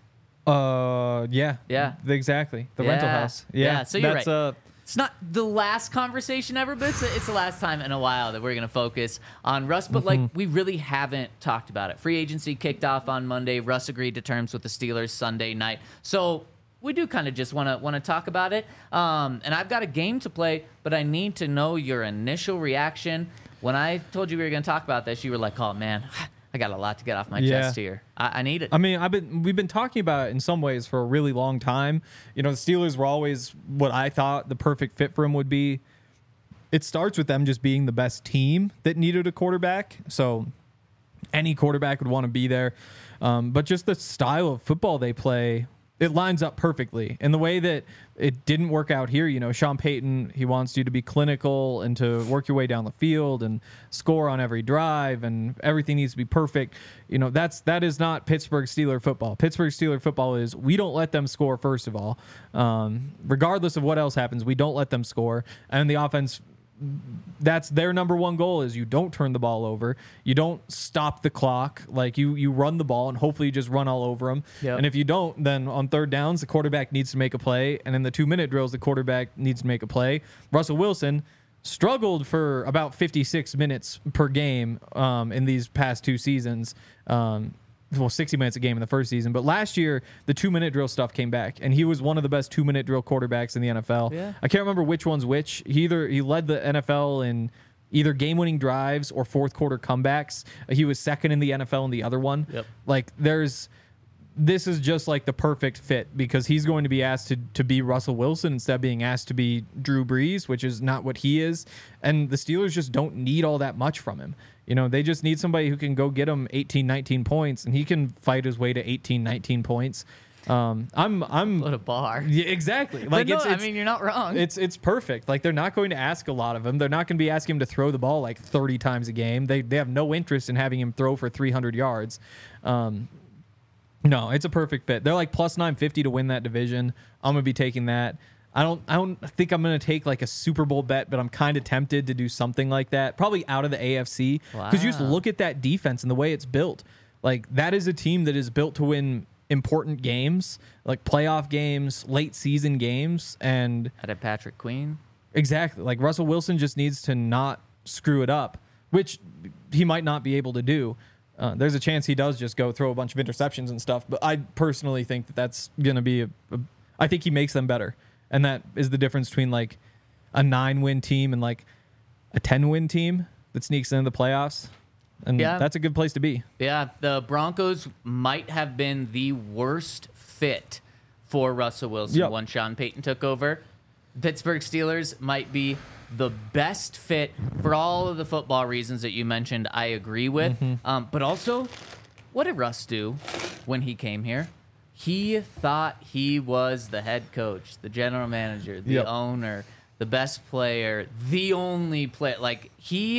C: Yeah.
A: Yeah.
C: Exactly. The rental
A: Yeah.
C: house. Yeah.
A: Yeah, so you're
C: That's,
A: right. It's not the last conversation ever, but it's the last time in a while that we're going to focus on Russ. But, like, we really haven't talked about it. Free agency kicked off on Monday. Russ agreed to terms with the Steelers Sunday night. So we do kind of just want to talk about it. And I've got a game to play, but I need to know your initial reaction. When I told you we were going to talk about this, you were like, oh, man, I got a lot to get off my chest here. I need it.
C: I mean, we've been talking about it in some ways for a really long time. You know, the Steelers were always what I thought the perfect fit for him would be. It starts with them just being the best team that needed a quarterback. So any quarterback would want to be there. But just the style of football they play, it lines up perfectly. In the way that it didn't work out here, you know, Sean Payton, he wants you to be clinical and to work your way down the field and score on every drive, and everything needs to be perfect. You know, that is not Pittsburgh Steeler football. Pittsburgh Steeler football is, we don't let them score, first of all. Regardless of what else happens, we don't let them score. And the offense, that's their number one goal, is you don't turn the ball over. You don't stop the clock. Like, you run the ball and hopefully you just run all over them.
A: Yep.
C: And if you don't, then on third downs, the quarterback needs to make a play. And in the 2-minute drills, the quarterback needs to make a play. Russell Wilson struggled for about 56 minutes per game in these past 2 seasons. 60 minutes a game in the first season. But last year, the 2-minute drill stuff came back, and he was one of the best 2-minute drill quarterbacks in the NFL.
A: Yeah.
C: I can't remember which one's which. He led the NFL in either game-winning drives or fourth quarter comebacks. He was second in the NFL in the other one.
A: Yep.
C: Like this is just like the perfect fit because he's going to be asked to be Russell Wilson instead of being asked to be Drew Brees, which is not what he is. And the Steelers just don't need all that much from him. You know, they just need somebody who can go get him 18, 19 points, and he can fight his way to 18, 19 points. I'm
A: What a bar.
C: yeah, exactly.
A: But
C: Like
A: no,
C: it's
A: I mean, you're not wrong.
C: it's perfect. Like they're not going to ask a lot of him. They're not going to be asking him to throw the ball like 30 times a game. They have no interest in having him throw for 300 yards. No, it's a perfect fit. They're like plus 950 to win that division. I'm gonna be taking that. I don't think I'm gonna take like a Super Bowl bet, but I'm kind of tempted to do something like that. Probably out of the AFC because you just
A: Wow.
C: look at that defense and the way it's built. Like that is a team that is built to win important games, like playoff games, late season games, and
A: Had a Patrick Queen.
C: exactly like Russell Wilson just needs to not screw it up, which he might not be able to do. There's a chance he does just go throw a bunch of interceptions and stuff, but I personally think that's going to be I think he makes them better. And that is the difference between like a 9-win team and like a 10-win team that sneaks into the playoffs. And
A: Yeah.
C: that's a good place to be.
A: Yeah, the Broncos might have been the worst fit for Russell Wilson
C: Yep.
A: when Sean Payton took over. Pittsburgh Steelers might be the best fit for all of the football reasons that you mentioned. I agree with. But also, what did Russ do when he came here? He thought he was the head coach, the general manager, the
C: Yep.
A: owner, the best player, the only player. Like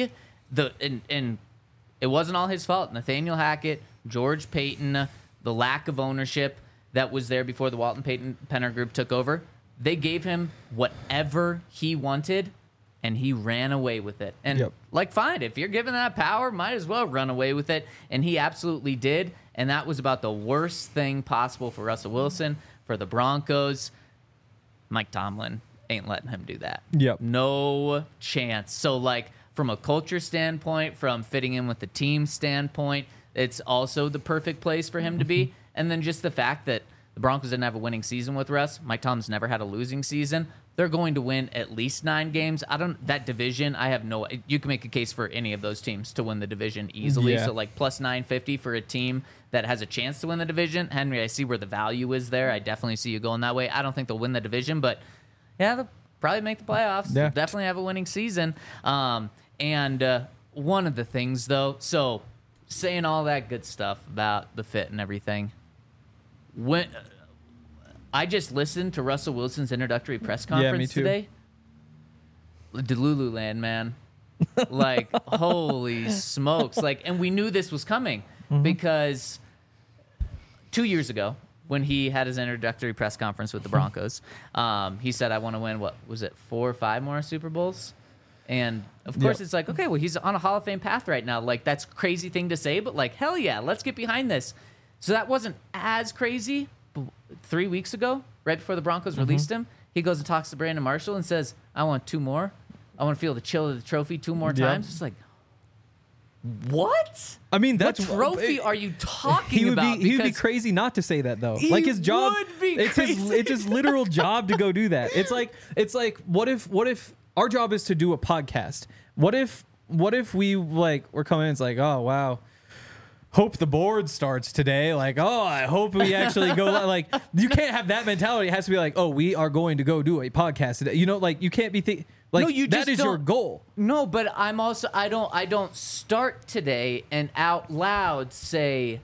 A: and it wasn't all his fault. Nathaniel Hackett, George Payton, the lack of ownership that was there before the Walton Payton Penner Group took over. They gave him whatever he wanted, and he ran away with it. And
C: Yep.
A: like, fine, if you're given that power, might as well run away with it. And he absolutely did. And that was about the worst thing possible for Russell Wilson, for the Broncos. Mike Tomlin ain't letting him do that.
C: Yep.
A: No chance. So, like, from a culture standpoint, from fitting in with the team standpoint, it's also the perfect place for him to be. And then just the fact that the Broncos didn't have a winning season with Russ. Mike Tomlin's never had a losing season. They're going to win at least 9 games. That division, I have no, you can make a case for any of those teams to win the division easily.
C: Yeah.
A: So like plus 950 for a team that has a chance to win the division. Henry, I see where the value is there. I definitely see you going that way. I don't think they'll win the division, but yeah, they'll probably make the playoffs.
C: Yeah.
A: They'll definitely have a winning season. And one of the things though, so saying all that good stuff about the fit and everything, when I just listened to Russell Wilson's introductory press conference
C: me too.
A: today. Delululand, man. Like, holy smokes. Like, and we knew this was coming because 2 years ago, when he had his introductory press conference with the Broncos, he said, I want to win, what was it, 4 or 5 more Super Bowls? And of course,
C: Yep.
A: it's like, okay, well, he's on a Hall of Fame path right now. Like, that's a crazy thing to say, but like, hell yeah, let's get behind this. So that wasn't as crazy. But 3 weeks ago, right before the Broncos released him, he goes and talks to Brandon Marshall and says, I want 2 more. I want to feel the chill of the trophy 2 more
C: Yep.
A: times. It's like, what?
C: I mean,
A: What
C: that's
A: trophy are you talking
C: he would
A: about?
C: be he would be
A: Because
C: crazy not to say that though.
A: He
C: Like his job,
A: would be
C: it's
A: crazy.
C: his literal job to go do that. It's like what if our job is to do a podcast? What if we like we're coming in? It's like, oh wow, hope the board starts today. Like, oh, I hope we actually go. Like, you can't have that mentality. It has to be like, oh, we are going to go do a podcast today. You know, like you can't be like
A: No, you
C: that
A: just
C: is your
A: don't-
C: goal.
A: No, but I'm also I don't start today and out loud say,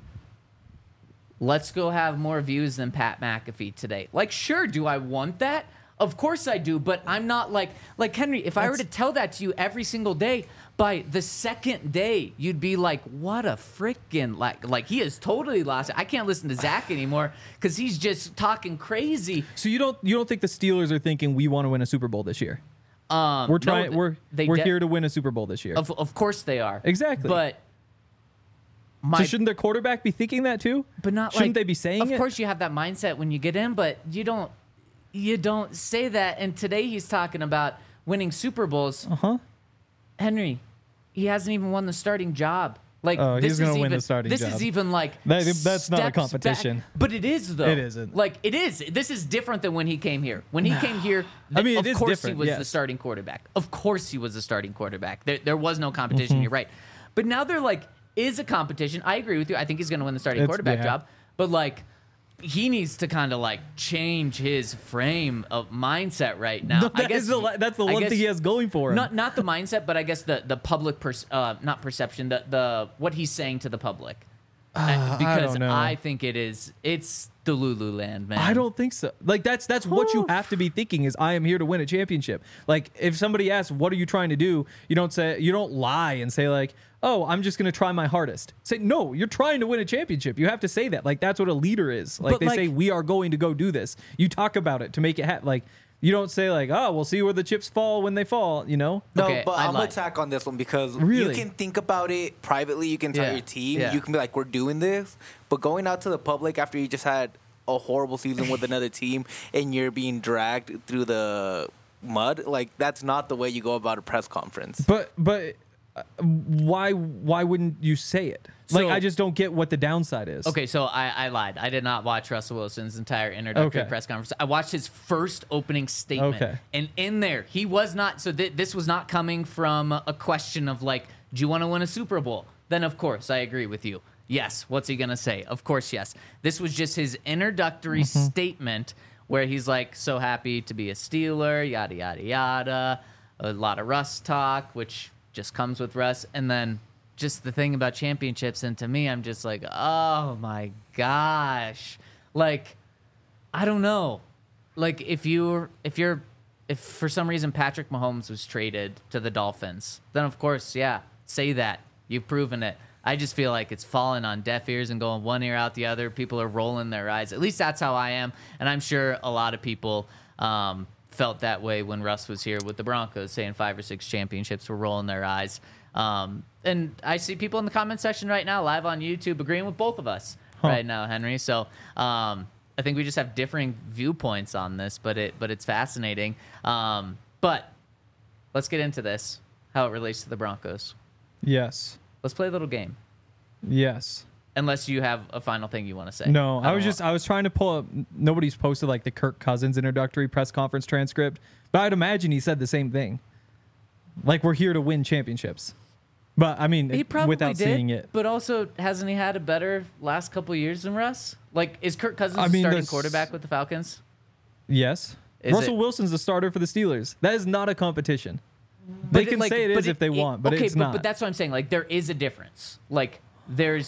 A: let's go have more views than Pat McAfee today. Like, sure, do I want that? Of course I do, but I'm not like Henry, if I were to tell that to you every single day, by the second day, you'd be like, what a freaking like he has totally lost it. I can't listen to Zach anymore because he's just talking crazy.
C: So you don't think the Steelers are thinking we want to win a Super Bowl this year? We're trying.
A: No,
C: we're here to win a Super Bowl this year.
A: Of course they are.
C: Exactly.
A: But
C: So shouldn't their quarterback be thinking that too?
A: But not
C: shouldn't
A: like,
C: they be saying
A: Of
C: it?
A: course, you have that mindset when you get in, but you don't say that. And today he's talking about winning Super Bowls.
C: Uh-huh.
A: Henry, he hasn't even won the starting job. Like
C: Oh,
A: this
C: he's gonna
A: is
C: win
A: even,
C: the starting
A: this
C: job.
A: is even like
C: That's not a
A: steps
C: competition.
A: back. But it is though.
C: It isn't.
A: Like it is. This is different than when he came here. When he came here,
C: I mean,
A: of
C: it is
A: course
C: different,
A: he was the
C: yes.
A: starting quarterback. Of course he was the starting quarterback. There was no competition. You're right. But now there like is a competition. I agree with you. I think he's going to win the starting quarterback job. But like he needs to kind of like change his frame of mindset right now.
C: That's the one thing he has going for him.
A: Not the mindset, but I guess the public not perception, the what he's saying to the public. Because
C: don't know.
A: I think it's the Lululand, man.
C: I don't think so. Like that's what you have to be thinking is I am here to win a championship. Like if somebody asks what are you trying to do, you don't lie and say like, "Oh, I'm just going to try my hardest." Say, "No, you're trying to win a championship." You have to say that. Like that's what a leader is. Like
A: But,
C: they
A: like-
C: say we are going to go do this. You talk about it to make it happen. Like you don't say like, "Oh, we'll see where the chips fall when they fall," you know?
B: No,
A: Okay,
B: but
A: I
B: I'm
A: lied.
B: attack on this one because
C: Really?
B: you can think about it privately. You can tell
A: Yeah,
B: your team.
A: yeah.
B: You can be like, "We're doing this," but going out to the public after you just had a horrible season with another team and you're being dragged through the mud, like that's not the way you go about a press conference.
C: But why wouldn't you say it? Like
A: So-
C: I just don't get what the downside is.
A: Okay, so I lied. I did not watch Russell Wilson's entire introductory
C: Okay.
A: press conference. I watched his first opening statement.
C: Okay.
A: And in there, he was not, so this was not coming from a question of like, do you want to win a Super Bowl? Then, of course, I agree with you. Yes. What's he going to say? Of course, yes. This was just his introductory statement where he's like, so happy to be a Steeler, yada, yada, yada. A lot of Russ talk, which just comes with Russ. And then just the thing about championships, and to me, I'm just like, oh my gosh. Like, I don't know. Like, if for some reason Patrick Mahomes was traded to the Dolphins, then of course, yeah, say that. You've proven it. I just feel like it's falling on deaf ears and going one ear out the other. People are rolling their eyes. At least that's how I am. And I'm sure a lot of people felt that way when Russ was here with the Broncos, saying 5 or 6 championships, were rolling their eyes. And I see people in the comment section right now, live on YouTube, agreeing with both of us right now, Henry. So I think we just have differing viewpoints on this, but it's fascinating. But let's get into this, how it relates to the Broncos.
C: Yes.
A: Let's play a little game.
C: Yes.
A: Unless you have a final thing you want to say.
C: No, I
A: don't
C: was trying to pull up. Nobody's posted like the Kirk Cousins introductory press conference transcript, but I'd imagine he said the same thing. Like we're here to win championships. But I mean,
A: He probably
C: without
A: did,
C: seeing it,
A: but also hasn't he had a better last couple of years than Russ? Like, is Kirk Cousins
C: I mean,
A: the starting
C: that's-
A: quarterback with the Falcons?
C: yes.
A: Is
C: Russell
A: it-
C: Wilson's the starter for the Steelers. That is not a competition. They
A: But
C: can say it is if they want, but
A: okay,
C: it's not.
A: But that's what I'm saying. Like, there is a difference. Like, there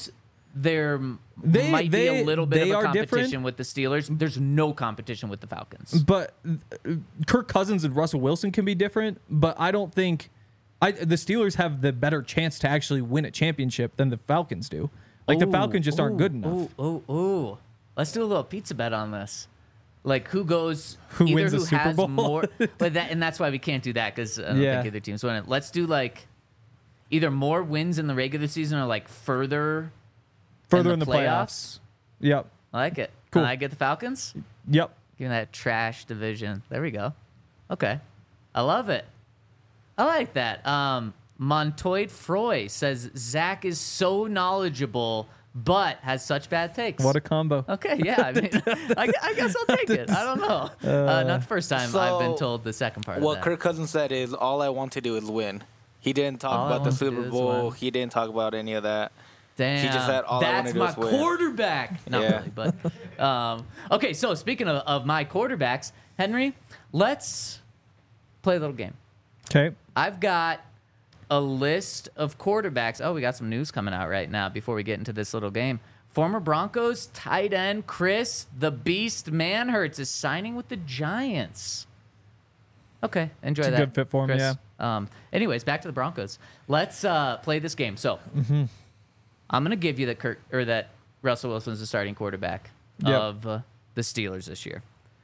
C: They-
A: might be
C: they-
A: a little bit
C: they
A: of a
C: are
A: competition
C: different.
A: with the Steelers. There's no competition with the Falcons.
C: But Kirk Cousins and Russell Wilson can be different, but I don't think the Steelers have the better chance to actually win a championship than the Falcons do. Like the Falcons just aren't good enough.
A: Ooh. Let's do a little pizza bet on this. Like who
C: Who
A: either
C: wins the
A: who
C: Super
A: has
C: Bowl?
A: more, but and that's why we can't do that because I don't
C: Yeah.
A: think either team's winning. Let's do like either more wins in the regular season or like further
C: Further in the playoffs. Yep.
A: I like it.
C: Cool.
A: Can I get the Falcons?
C: Yep.
A: Give me that trash division. There we go. Okay. I love it. I like that. Montoid Froy says Zach is so knowledgeable but has such bad takes.
C: What a combo.
A: Okay, yeah. I mean, I guess I'll take it. I don't know. Not the first time I've been
B: So,
A: told the second part of
B: What
A: that.
B: Kirk Cousins said is, all I want to do is win. He didn't talk
A: All I
B: about the
A: want to do
B: Super
A: is
B: Bowl.
A: win.
B: He didn't talk about any of that.
A: Damn,
B: He just said, "All I wanna
A: that's
B: do
A: my
B: is win."
A: quarterback. Not
B: Yeah.
A: really, but okay. So speaking of my quarterbacks, Henry, let's play a little game.
C: Okay.
A: I've got a list of quarterbacks. Oh, we got some news coming out right now before we get into this little game. Former Broncos tight end Chris the Beast Manhurts is signing with the Giants. Okay, enjoy
C: It's a
A: that.
C: good fit for him,
A: Chris.
C: yeah.
A: Anyways, back to the Broncos. Let's play this game. So, I'm gonna give you that Russell Wilson's the starting quarterback
C: Yep.
A: of the Steelers this year.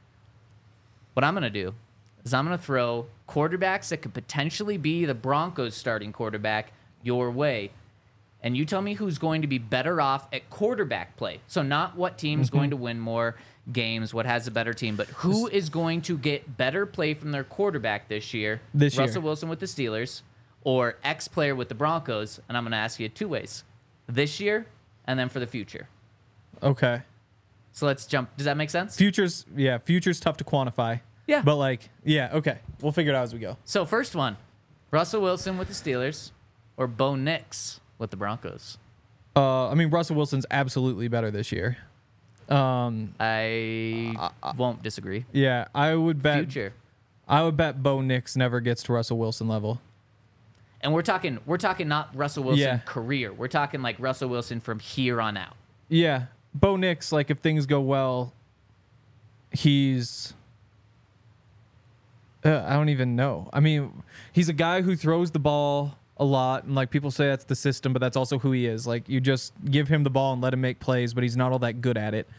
A: What I'm gonna do is I'm gonna throw quarterbacks that could potentially be the Broncos' starting quarterback your way, and you tell me who's going to be better off at quarterback play. So not what team's going to win more games, what has a better team, but who is going to get better play from their quarterback this year.
C: This year.
A: Russell Wilson with the Steelers or X player with the Broncos, and I'm going to ask you 2 ways. this year and then for the future.
C: Okay.
A: So let's jump. Does that make sense?
C: Future's tough to quantify.
A: Yeah.
C: But okay. We'll figure it out as we go.
A: So first one, Russell Wilson with the Steelers or Bo Nix with the Broncos?
C: I mean, Russell Wilson's absolutely better this year.
A: I won't disagree.
C: Yeah, I would bet.
A: Future.
C: I would bet Bo Nix never gets to Russell Wilson level.
A: And we're talking not Russell Wilson
C: Yeah.
A: career. We're talking like Russell Wilson from here on out.
C: Yeah, Bo Nix, like if things go well, he's. I don't even know. I mean, he's a guy who throws the ball a lot, and like people say that's the system, but that's also who he is. Like you just give him the ball and let him make plays, but he's not all that good at it.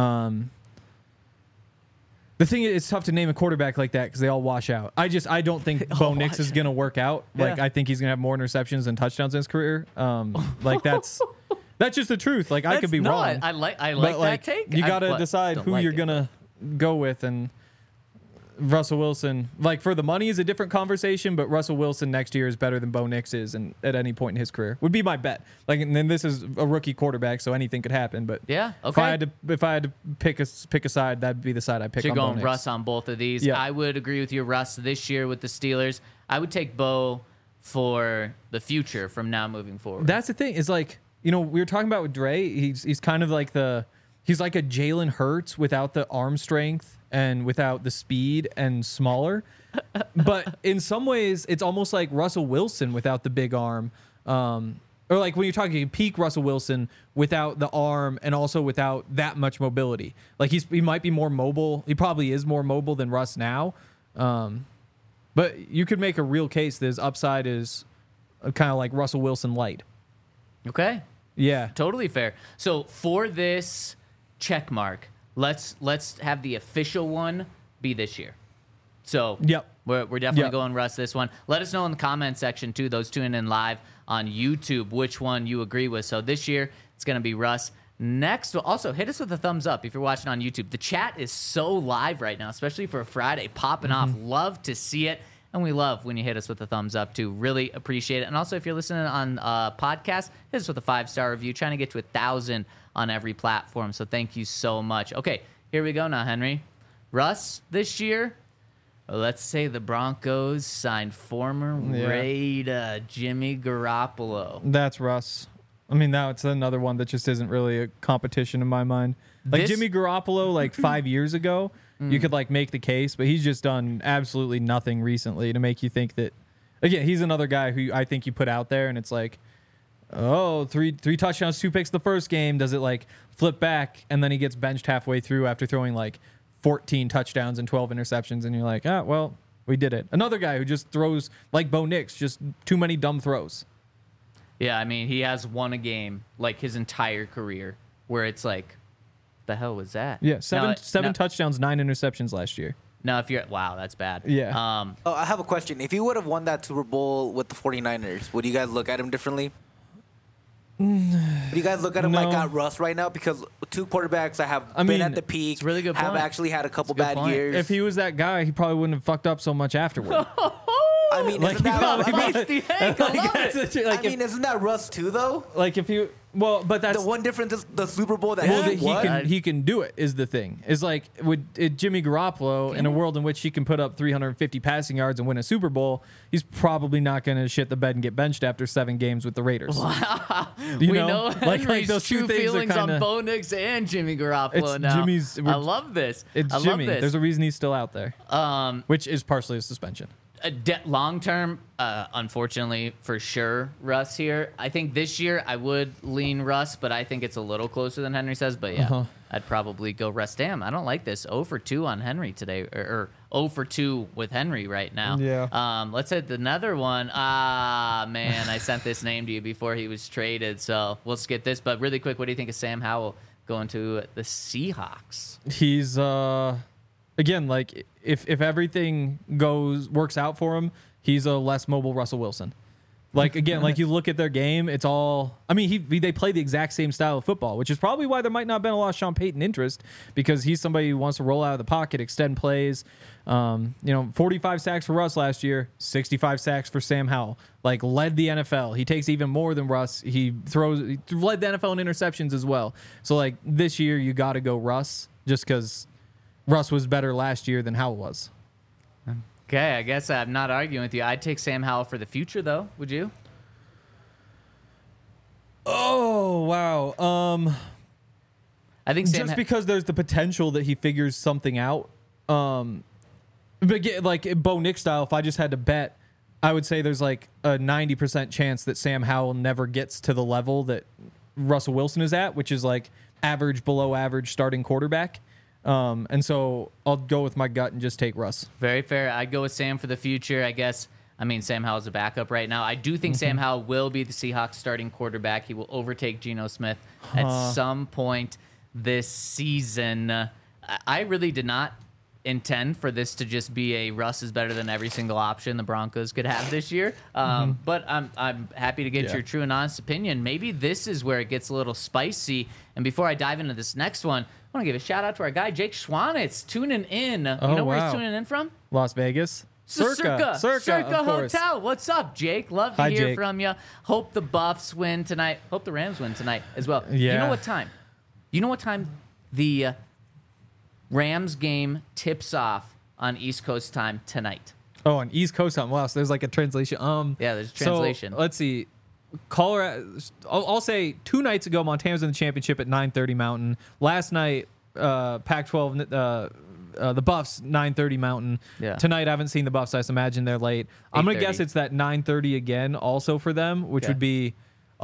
C: The thing is, it's tough to name a quarterback like that because they all wash out. I don't think Bo Nix is going to work out. Like
A: Yeah.
C: I think he's going to have more interceptions than touchdowns in his career. Like that's just the truth. Like I could be wrong.
A: I like
C: but
A: that take.
C: you
A: I
C: got to
A: but
C: decide
A: don't
C: who
A: like
C: you're
A: it.
C: gonna go with, and Russell Wilson. Like for the money is a different conversation, but Russell Wilson next year is better than Bo Nix is, and at any point in his career would be my bet. Like, and then this is a rookie quarterback, so anything could happen. But
A: Yeah,
C: if I
A: okay.
C: had to pick a side, that'd be the side I pick.
A: So you're
C: on Bo
A: going
C: Nix.
A: Russ on both of these.
C: Yeah.
A: I would agree with you, Russ, this year with the Steelers. I would take Bo for the future from now moving forward.
C: That's the thing. Is like, we were talking about with Dre. He's kind of like he's like a Jalen Hurts without the arm strength and without the speed and smaller. But in some ways, it's almost like Russell Wilson without the big arm. Or like when you're talking peak Russell Wilson without the arm and also without that much mobility. Like he might be more mobile. He probably is more mobile than Russ now. But you could make a real case that his upside is kind of like Russell Wilson light.
A: Okay.
C: Yeah.
A: Totally fair. So for this check mark, let's have the official one be this year. So
C: Yep.
A: we're definitely
C: Yep.
A: going Russ this one. Let us know in the comment section too, those tuning in live on YouTube, which one you agree with. So this year it's going to be Russ. Next, also hit us with a thumbs up if you're watching on YouTube. The chat is so live right now, especially for a Friday, popping off. Love to see it. And we love when you hit us with a thumbs up, too. Really appreciate it. And also, if you're listening on podcast, hit us with a 5-star review. Trying to get to 1,000 on every platform. So thank you so much. Okay, here we go now, Henry. Russ, this year, let's say the Broncos signed former Raider Jimmy Garoppolo.
C: That's Russ. I mean, that's another one that just isn't really a competition in my mind. Like
A: This-
C: Jimmy Garoppolo, like 5 years ago, you could like make the case, but he's just done absolutely nothing recently to make you think that. Again, he's another guy who I think you put out there, and it's like, oh, three touchdowns, 2 picks the first game. Does it like flip back, and then he gets benched halfway through after throwing like 14 touchdowns and 12 interceptions, and you're like, well, we did it. Another guy who just throws like Bo Nix, just too many dumb throws.
A: Yeah, I mean, he has won a game like his entire career where it's like, the hell was that?
C: Yeah, seven
A: Now,
C: touchdowns, 9 interceptions last year.
A: now if you're, wow, that's bad.
C: Yeah.
B: Oh, I have a question. If you would have won that Super Bowl with the 49ers, would you guys look at him differently? Would you guys look at him like
C: No.
B: at Russ right now? Because two quarterbacks that have
C: I
B: been
C: mean,
B: at the peak,
A: it's a really good
B: have
A: point.
B: actually had a couple
A: It's a good
B: bad
A: point.
B: years.
C: If he was that guy, he probably wouldn't have fucked up so much afterward.
B: I mean,
C: Like,
B: isn't that,
C: probably-
B: I mean,
A: Feisty Hank, I love it.
C: like,
B: I mean, isn't that Russ too, though?
C: like if you, well, but that's
B: The one difference is the Super Bowl that
C: well,
B: he
C: that
B: won.
C: he can do it is the thing. Is like with Jimmy Garoppolo in a world in which he can put up 350 passing yards and win a Super Bowl, he's probably not going to shit the bed and get benched after 7 games with the Raiders. You
A: we
C: know?
A: know
C: Like
A: Henry's
C: those two
A: true
C: things are
A: feelings
C: kinda-
A: on Bo Nix and Jimmy Garoppolo
C: It's
A: now.
C: Jimmy's-
A: I love this.
C: It's
A: I
C: Jimmy.
A: love
C: There's
A: this.
C: a reason he's still out there, which is partially a suspension.
A: Long term, unfortunately, for sure, Russ here. I think this year I would lean Russ, but I think it's a little closer than Henry says. But yeah, I'd probably go Russ. Damn, I don't like this. 0 for 2 on Henry today, or 0 for 2 with Henry right now.
C: Yeah.
A: Let's hit another one. Man, I sent this name to you before he was traded, so we'll skip this. But really quick, what do you think of Sam Howell going to the Seahawks?
C: He's again, like if everything works out for him, he's a less mobile Russell Wilson. Like, again, like you look at their game, it's all. I mean, they play the exact same style of football, which is probably why there might not have been a lot of Sean Payton interest, because he's somebody who wants to roll out of the pocket, extend plays. 45 sacks for Russ last year, 65 sacks for Sam Howell. Like, led the NFL. He takes even more than Russ. He led the NFL in interceptions as well. So, like, this year you got to go Russ, just because Russ was better last year than Howell was.
A: Okay, I guess I'm not arguing with you. I'd take Sam Howell for the future, though. Would you?
C: Oh, wow.
A: I think Sam
C: just because there's the potential that he figures something out. But like Bo Nick style, if I just had to bet, I would say there's like a 90% chance that Sam Howell never gets to the level that Russell Wilson is at, which is like average, below average starting quarterback. And so I'll go with my gut and just take Russ.
A: Very fair. I'd go with Sam for the future, I guess. I mean, Sam Howell's a backup right now. I do think Sam Howell will be the Seahawks starting quarterback. He will overtake Geno Smith at some point this season. I really did not intend for this to just be a Russ is better than every single option the Broncos could have this year. But I'm happy to get your true and honest opinion. Maybe this is where it gets a little spicy. And before I dive into this next one, I want to give a shout out to our guy, Jake Schwanitz, tuning in. You know where he's tuning in from?
C: Las Vegas.
A: Circa
C: of course.
A: Hotel. What's up, Jake? Love to
C: Hi,
A: hear
C: Jake.
A: from you. Hope the Buffs win tonight. Hope the Rams win tonight as well.
C: Yeah.
A: You know what time? You know what time the Rams game tips off on East Coast time tonight?
C: Oh, on East Coast time. Wow, so there's like a translation.
A: Yeah, there's a translation.
C: So, let's see. Colorado. I'll say 2 nights ago, Montana's in the championship at 9:30 Mountain. Last night, Pac-12, the Buffs 9:30 Mountain.
A: Yeah.
C: Tonight, I haven't seen the Buffs. I just imagine they're late. I'm gonna
A: 8:30.
C: guess it's that 9:30 again, also for them, which
A: Okay.
C: would be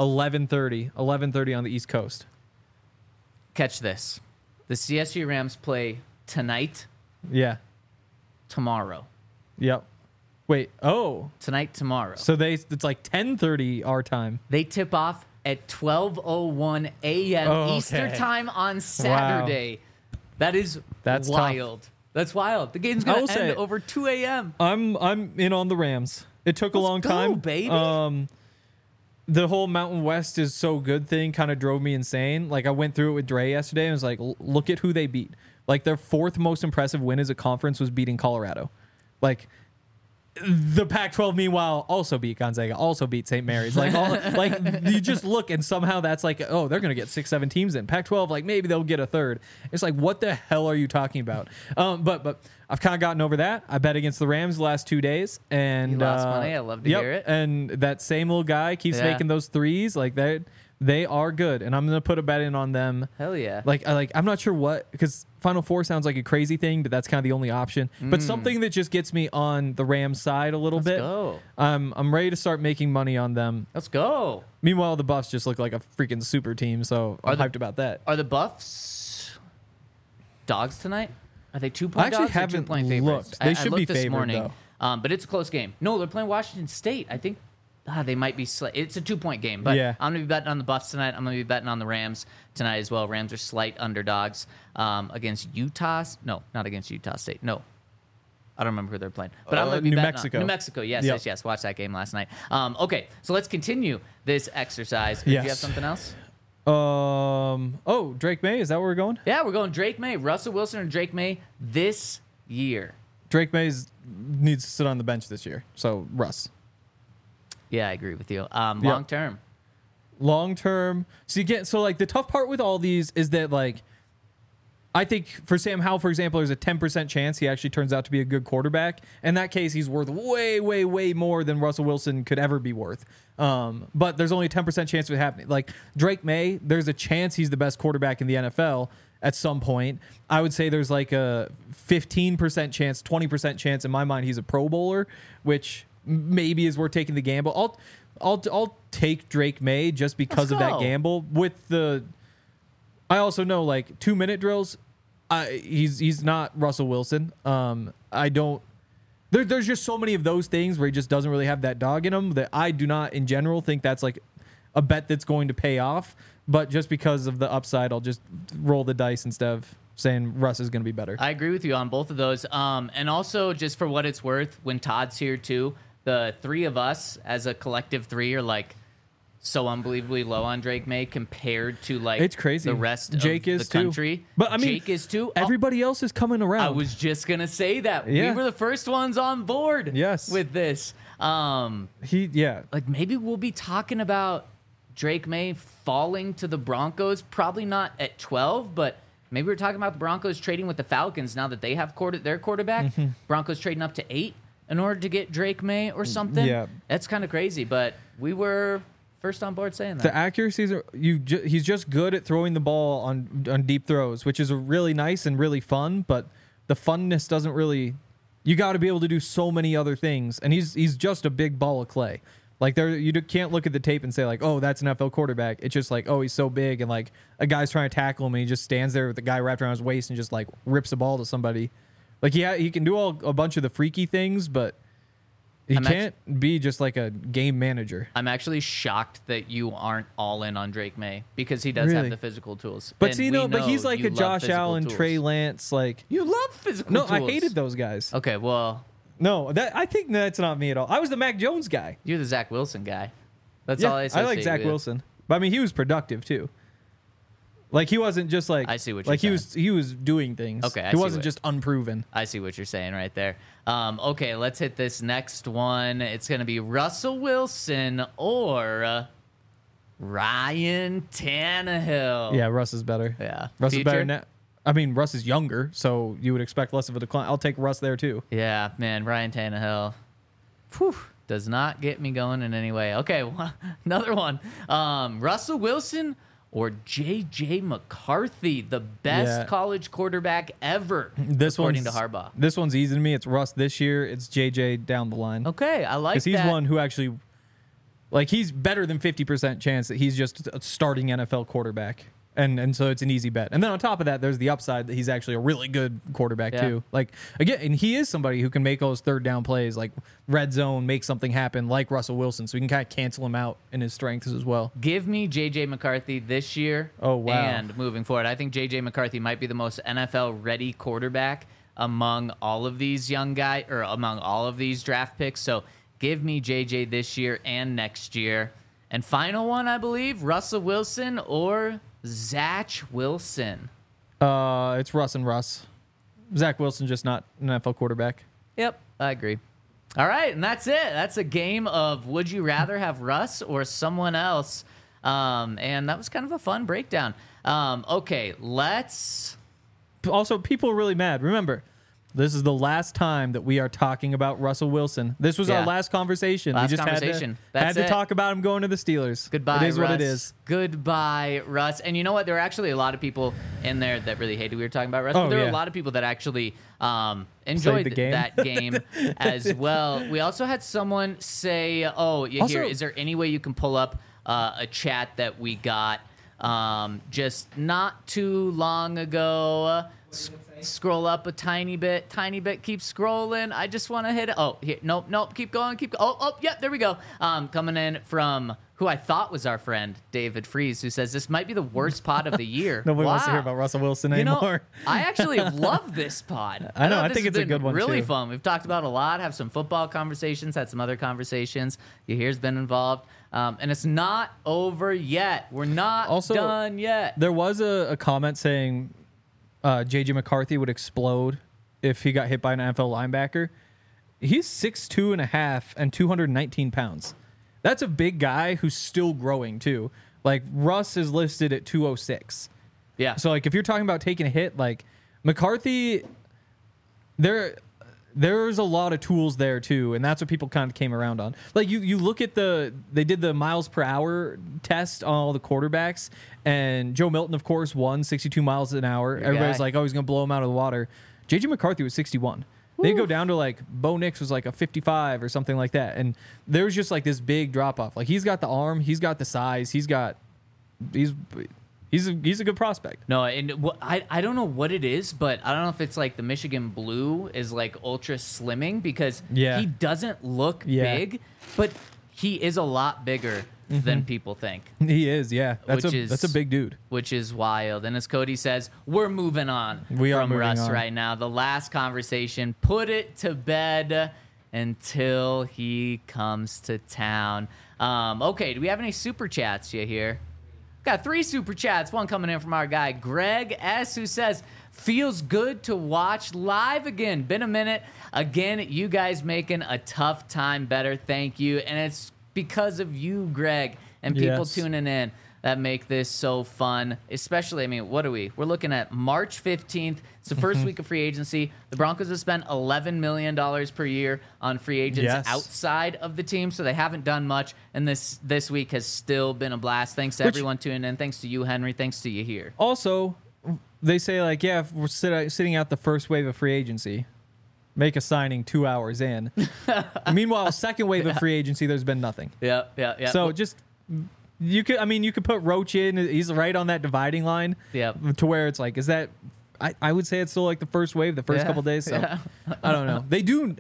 C: 11:30 on the East Coast.
A: Catch this. The CSU Rams play tonight,
C: Yeah.
A: tomorrow.
C: Yep. Wait. Oh.
A: Tonight, tomorrow.
C: So it's like 10:30 our time.
A: They tip off at 12:01 a.m.
C: Oh, okay.
A: Eastern time on Saturday. That's
C: That's
A: wild. That's wild. The game's
C: I
A: going
C: will
A: to
C: say-
A: end over 2 a.m.
C: I'm in on the Rams. It took a long
A: go,
C: time,
A: baby.
C: The whole Mountain West is so good thing kind of drove me insane. Like, I went through it with Dre yesterday and was like, look at who they beat. Like, their 4th most impressive win as a conference was beating Colorado. Like, the Pac-12, meanwhile, also beat Gonzaga, also beat St. Mary's. Like, you just look and somehow that's like, oh, they're going to get 6-7 teams in. Pac-12, like, maybe they'll get a third. It's like, what the hell are you talking about? But I've kind of gotten over that. I bet against the Rams the last 2 days. And
A: You lost money. I love to hear it.
C: And that same little guy keeps
A: Yeah.
C: making those threes. Like, they are good. And I'm going to put a bet in on them.
A: Hell yeah.
C: I'm not sure what, because Final Four sounds like a crazy thing, but that's kind of the only option. But something that just gets me on the Rams side a little bit.
A: Go.
C: I'm ready to start making money on them.
A: Let's go.
C: Meanwhile, the Buffs just look like a freaking super team, so I'm hyped about that.
A: Are the Buffs dogs tonight? Are they 2-point
C: I actually
A: dogs or
C: haven't
A: 2-point favorites?
C: looked. They should
A: I
C: be
A: looked this
C: favored,
A: morning, but it's a close game. No, they're playing Washington State. I think they might be. It's a 2-point game, but
C: Yeah.
A: I'm gonna be betting on the Buffs tonight. I'm gonna be betting on the Rams tonight as well. Rams are slight underdogs against Utah. No, not against Utah State. No. I don't remember who they're playing, but I'm gonna be
C: New
A: betting
C: Mexico.
A: on New Mexico. Yes,
C: Yep.
A: yes. Watched that game last night. Okay, so let's continue this exercise. Do you have
C: Yes.
A: something else?
C: Drake May, is that where we're going?
A: Yeah, we're going Drake May, Russell Wilson, or Drake May this year.
C: Drake May needs to sit on the bench this year, so Russ.
A: Yeah, I agree with you. Long term.
C: Long term. So the tough part with all these is that, like, I think for Sam Howell, for example, there's a 10% chance he actually turns out to be a good quarterback. In that case, he's worth way, way, way more than Russell Wilson could ever be worth. But there's only a 10% chance of it happening. Like, Drake May, there's a chance he's the best quarterback in the NFL at some point. I would say there's like a 15% chance, 20% chance in my mind he's a Pro Bowler, which maybe is worth taking the gamble. I'll take Drake May just because of that
A: go.
C: gamble. I also know, like, 2-minute drills. He's not Russell Wilson. There's just so many of those things where he just doesn't really have that dog in him that I do not, in general, think that's like a bet that's going to pay off. But just because of the upside, I'll just roll the dice instead of saying Russ is going to be better.
A: I agree with you on both of those. And also, just for what it's worth, when Todd's here too, the three of us as a collective three are like so unbelievably low on Drake May compared to like
C: It's crazy.
A: the rest
C: Jake
A: of
C: is
A: the country.
C: too. But I mean,
A: Jake is too.
C: Everybody else is coming around.
A: I was just gonna say that
C: Yeah.
A: we were the first ones on board.
C: Yes.
A: With this, like maybe we'll be talking about Drake May falling to the Broncos. Probably not at 12, but maybe we're talking about the Broncos trading with the Falcons now that they have their quarterback.
C: Mm-hmm.
A: Broncos trading up to 8 in order to get Drake May or something.
C: Yeah.
A: That's kind of crazy, but we were first on board saying that.
C: The accuracies are he's just good at throwing the ball on deep throws, which is really nice and really fun, but the funness doesn't really. You got to be able to do so many other things, and he's just a big ball of clay. Like can't look at the tape and say like, oh, that's an NFL quarterback. It's just like, oh, he's so big, and like a guy's trying to tackle him, and he just stands there with the guy wrapped around his waist and just like rips the ball to somebody. Like he can do a bunch of the freaky things, but he can't be just like a game manager.
A: I'm actually shocked that you aren't all in on Drake May because he does have
C: Really?
A: the physical tools.
C: But
A: And
C: see,
A: we
C: but he's
A: know
C: like
A: you
C: a
A: love
C: Josh
A: physical
C: Allen,
A: tools.
C: Trey Lance, like.
A: You love physical
C: No,
A: tools.
C: I hated those guys.
A: Okay, well,
C: No, I think that's not me at all. I was the Mac Jones guy.
A: you're the Zach Wilson guy. That's all I
C: I
A: associate
C: like Zach
A: with.
C: Wilson, but I mean he was productive too. Like he wasn't just like
A: I see what
C: like
A: you're
C: he was doing things.
A: Okay, I
C: he
A: see
C: wasn't
A: what-
C: just unproven.
A: I see what you're saying right there. Okay, let's hit this next one. It's going to be Russell Wilson or Ryan Tannehill.
C: Yeah, Russ is better.
A: Yeah.
C: Russ is better
A: Future?
C: now. I mean, Russ is younger, so you would expect less of a decline. I'll take Russ there too.
A: Yeah, man, Ryan Tannehill. Whew, does not get me going in any way. Okay, well, another one. Russell Wilson or J.J. McCarthy, the best
C: Yeah.
A: college quarterback ever, according to Harbaugh.
C: This one's easy to me. It's Russ this year. It's JJ down the line.
A: Okay, I like
C: Because he's
A: that.
C: one who actually, like, he's better than 50% chance that he's just a starting NFL quarterback. And so it's an easy bet. And then on top of that, there's the upside that he's actually a really good quarterback
A: Yeah.
C: too. Like, again, and he is somebody who can make those third down plays, like red zone, make something happen like Russell Wilson. So we can kind of cancel him out in his strengths as well.
A: Give me J.J. McCarthy this year.
C: Oh, wow.
A: And moving forward, I think J.J. McCarthy might be the most NFL-ready quarterback among all of these young guys, or among all of these draft picks. So give me J.J. this year and next year. And final one, I believe, Russell Wilson or Zach Wilson.
C: It's Russ and Russ. Zach Wilson just not an NFL quarterback.
A: Yep, I agree. All right, and that's it. That's a game of would you rather have Russ or someone else? And that was kind of a fun breakdown. Okay, let's...
C: Also, people are really mad. Remember, this is the last time that we are talking about Russell Wilson. This was
A: Yeah.
C: our last conversation.
A: Last
C: we just
A: conversation.
C: had
A: That's
C: to
A: it.
C: talk about him going to the Steelers.
A: Goodbye,
C: It is
A: Russ.
C: what it is.
A: Goodbye, Russ. And you know what? There were actually a lot of people in there that really hated we were talking about Russ.
C: Oh,
A: but there were
C: yeah.
A: a lot of people that actually enjoyed
C: the game.
A: that game as well. We also had someone say, oh, yeah,
C: Also-
A: here, is there any way you can pull up a chat that we got just not too long ago? Scroll up a tiny bit, keep scrolling. I just want to hit it. Oh, here, nope, keep going. Oh, yeah, there we go. Coming in from who I thought was our friend, David Fries, who says this might be the worst pod of the year.
C: Nobody wants to hear
A: Wow.
C: about Russell Wilson
A: You know,
C: anymore.
A: I actually love this pod.
C: I know,
A: thought
C: I
A: this
C: think
A: has
C: it's a
A: been
C: good one,
A: really
C: too.
A: fun. We've talked about a lot, have some football conversations, had some other conversations. Yahir's been involved. And it's not over yet. We're not
C: Also,
A: done yet.
C: There was a comment saying J.J. McCarthy would explode if he got hit by an NFL linebacker. He's 6'2.5" and 219 pounds. That's a big guy who's still growing too. Like Russ is listed at 206.
A: Yeah.
C: So like if you're talking about taking a hit, like McCarthy, there's a lot of tools there too, and that's what people kind of came around on. Like you look at they did the miles per hour test on all the quarterbacks, and Joe Milton of course won 62 miles an hour. Everybody's
A: guy.
C: like, oh, he's gonna blow him out of the water. JJ McCarthy was 61. They go down to like Bo Nix was like a 55 or something like that, and there's just like this big drop off. Like he's got the arm, he's got the size, he's a good prospect.
A: No, and I don't know what it is, but I don't know if it's like the Michigan Blue is like ultra slimming because
C: Yeah.
A: he doesn't look
C: Yeah.
A: big, but he is a lot bigger than people think,
C: He is, yeah. That's
A: Which
C: a big dude.
A: which is wild. And as Cody says, we're moving on
C: We are
A: from
C: moving
A: Russ
C: on.
A: right now. The last conversation, put it to bed. until he comes to town. Okay, do we have any super chats you here? Got 3 super chats. One coming in from our guy Greg S, who says, feels good to watch live again. Been a minute. Again, you guys making a tough time better. Thank you. And it's because of you, Greg, and people tuning in that make this so fun. Especially, I mean, what are we? We're looking at March 15th. It's the first week of free agency. The Broncos have spent $11 million per year on free agents outside of the team, so they haven't done much. And this week has still been a blast. Thanks to everyone tuning in. Thanks to you, Henry. Thanks to you here.
C: Also, they say, like, yeah, if we're sitting out the first wave of free agency, make a signing 2 hours in. Meanwhile, second wave of free agency, there's been nothing.
A: Yeah.
C: So just... You could put Roach in. He's right on that dividing line.
A: Yeah.
C: To where it's like, is that? I would say it's still like the first wave, the first couple days. So I don't know. They do.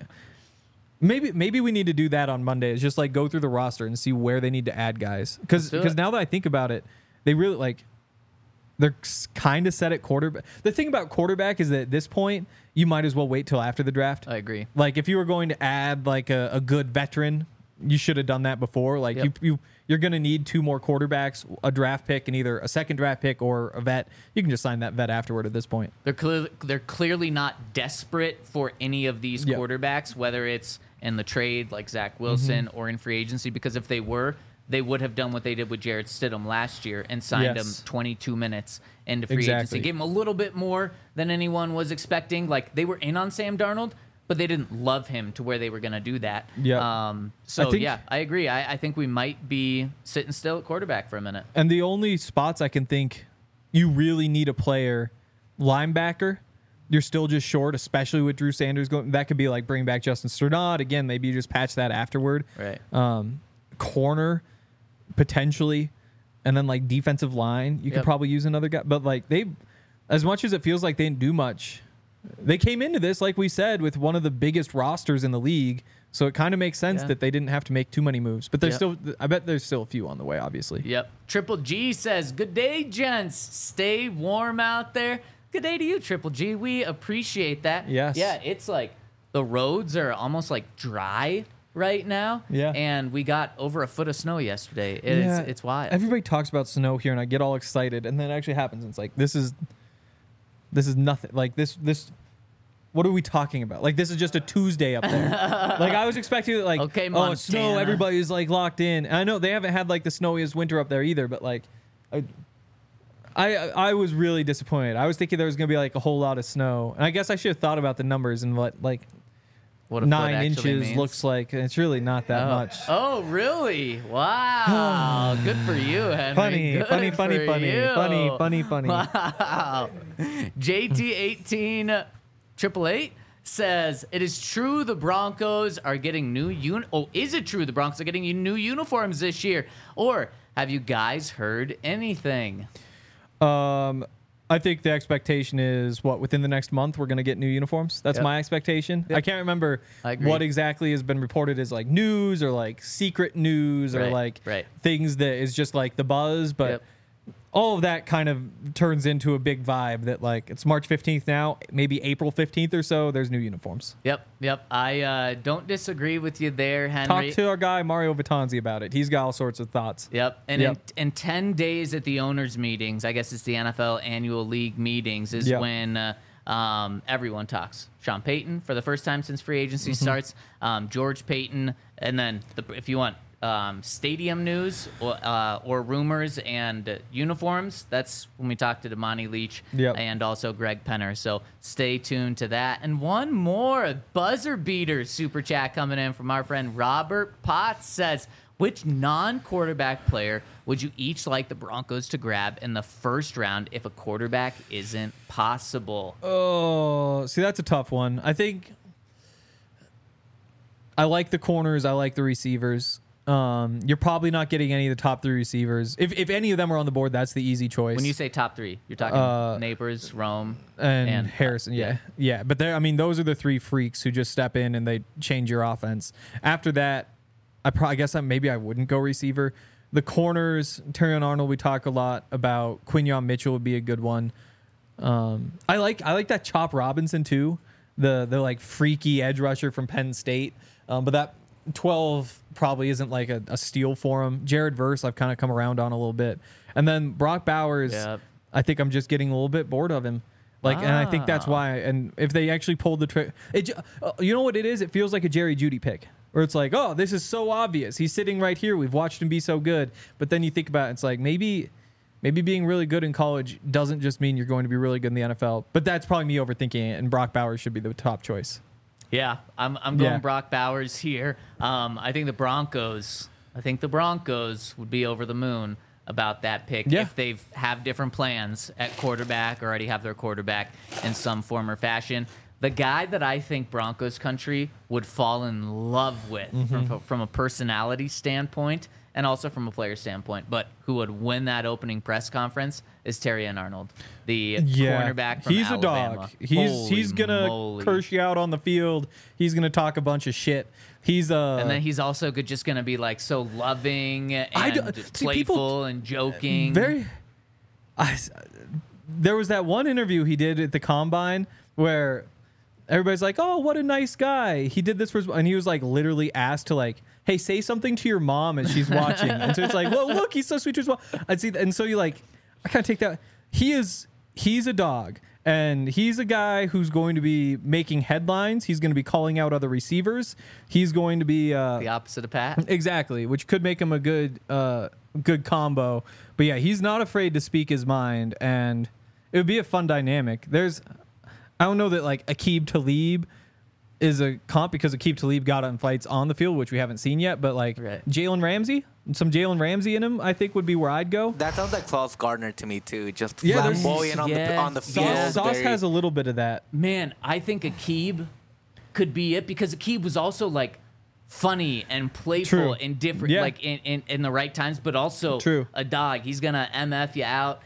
C: Maybe we need to do that on Monday. It's just like go through the roster and see where they need to add guys. Because now that I think about it, they really like. They're kind of set at quarterback. The thing about quarterback is that at this point, you might as well wait till after the draft.
A: I agree.
C: Like if you were going to add like a good veteran, you should have done that before. Like you're going to need 2 more quarterbacks, a draft pick, and either a second draft pick or a vet. You can just sign that vet afterward at this point.
A: They're clearly not desperate for any of these quarterbacks, whether it's in the trade like Zach Wilson or in free agency, because if they were, they would have done what they did with Jarrett Stidham last year and signed him 22 minutes into free agency. Gave him a little bit more than anyone was expecting. Like they were in on Sam Darnold, but they didn't love him to where they were going to do that.
C: Yeah.
A: I agree. I think we might be sitting still at quarterback for a minute.
C: And the only spots I can think you really need a player, linebacker, you're still just short, especially with Drew Sanders going. That could be like bring back Justin Strnad. Again, maybe you just patch that afterward.
A: Right.
C: Corner, potentially. And then like defensive line, you could probably use another guy. But like as much as it feels like they didn't do much, they came into this, like we said, with one of the biggest rosters in the league, so it kind of makes sense that they didn't have to make too many moves. But I bet there's still a few on the way, obviously.
A: Yep. Triple G says, good day, gents. Stay warm out there. Good day to you, Triple G. We appreciate that.
C: Yes.
A: Yeah, it's like the roads are almost like dry right now.
C: Yeah.
A: And we got over a foot of snow yesterday. It's wild.
C: Everybody talks about snow here, and I get all excited, and then it actually happens. And it's like, this is nothing. Like this. What are we talking about? Like this is just a Tuesday up there. Like I was expecting like,
A: Montana.
C: Snow. Everybody's like locked in. And I know they haven't had like the snowiest winter up there either. But like, I was really disappointed. I was thinking there was gonna be like a whole lot of snow. And I guess I should have thought about the numbers and what
A: a
C: 9 inches
A: means.
C: looks like. And it's really not that much.
A: Oh, really? Wow. Good for you, Henry.
C: Funny.
A: Wow. JT18 888 says, it is true the Broncos are getting is it true the Broncos are getting new uniforms this year? Or have you guys heard anything?
C: I think the expectation is within the next month we're going to get new uniforms. That's my expectation. I can't remember what exactly has been reported as like news or like secret news or like things that is just like the buzz, but all of that kind of turns into a big vibe that like it's March 15th now, maybe April 15th or so, there's new uniforms.
A: Yep. I don't disagree with you there, Henry.
C: Talk to our guy Mario Vitanzi about it. He's got all sorts of thoughts.
A: Yep. And in 10 days at the owners' meetings, I guess it's the NFL annual league meetings, is when everyone talks. Sean Payton for the first time since free agency starts, George Payton, and then if you want stadium news or rumors and uniforms, that's when we talk to Damani Leach and also Greg Penner. So stay tuned to that. And one more buzzer beater super chat coming in from our friend Robert Potts says, which non-quarterback player would you each like the Broncos to grab in the first round if a quarterback isn't possible?
C: Oh, see, that's a tough one. I think I like the corners. I like the receivers. You're probably not getting any of the top 3 receivers. If any of them are on the board, that's the easy choice.
A: When you say top 3, you're talking Neighbors, Rome,
C: and Harrison. Yeah. But those are the 3 freaks who just step in and they change your offense. After that, I guess maybe I wouldn't go receiver. The corners, Terrion Arnold, we talk a lot about. Quinyon Mitchell would be a good one. I like that Chop Robinson too, the like freaky edge rusher from Penn State. But that 12 probably isn't like a steal for him. Jared Verse, I've kind of come around on a little bit. And then Brock Bowers,
A: Yep.
C: I think I'm just getting a little bit bored of him. And I think that's why. And if they actually pulled the trigger, you know what it is? It feels like a Jerry Jeudy pick, where it's like, oh, this is so obvious. He's sitting right here. We've watched him be so good. But then you think about it, it's like maybe being really good in college doesn't just mean you're going to be really good in the NFL. But that's probably me overthinking it. And Brock Bowers should be the top choice.
A: Yeah, I'm going
C: Yeah.
A: Brock Bowers here. I think the Broncos would be over the moon about that pick if they have different plans at quarterback or already have their quarterback in some form or fashion. The guy that I think Broncos country would fall in love with from a personality standpoint and also from a player standpoint, but who would win that opening press conference is Terrion Arnold, the cornerback from
C: he's
A: Alabama.
C: a dog. He's gonna curse you out on the field. He's gonna talk a bunch of shit.
A: And then he's also just gonna be like so loving and playful and joking.
C: There was that one interview he did at the Combine where everybody's like, "Oh, what a nice guy." He did this and he was like literally asked to like, "Hey, say something to your mom as she's watching." And so it's like, "Well, look, he's so sweet to his mom." I'd see, and so you like, I kind of take that. He's a dog, and he's a guy who's going to be making headlines. He's going to be calling out other receivers. He's going to be
A: the opposite of Pat.
C: Exactly, which could make him a good combo. But yeah, he's not afraid to speak his mind, and it would be a fun dynamic. I don't know that like Aqib Talib is a comp because Aqib Talib got in fights on the field, which we haven't seen yet. But like Jalen Ramsey, some Jalen Ramsey in him, I think would be where I'd go.
B: That sounds like Sauce Gardner to me too. Just
C: there's-
B: flamboyant on the field.
C: Sauce
B: very-
C: has a little bit of that.
A: Man, I think Aqib could be it because Aqib was also like funny and playful
C: True.
A: and different,
C: Yeah.
A: like in the right times, but also
C: True.
A: a dog. He's gonna MF you out.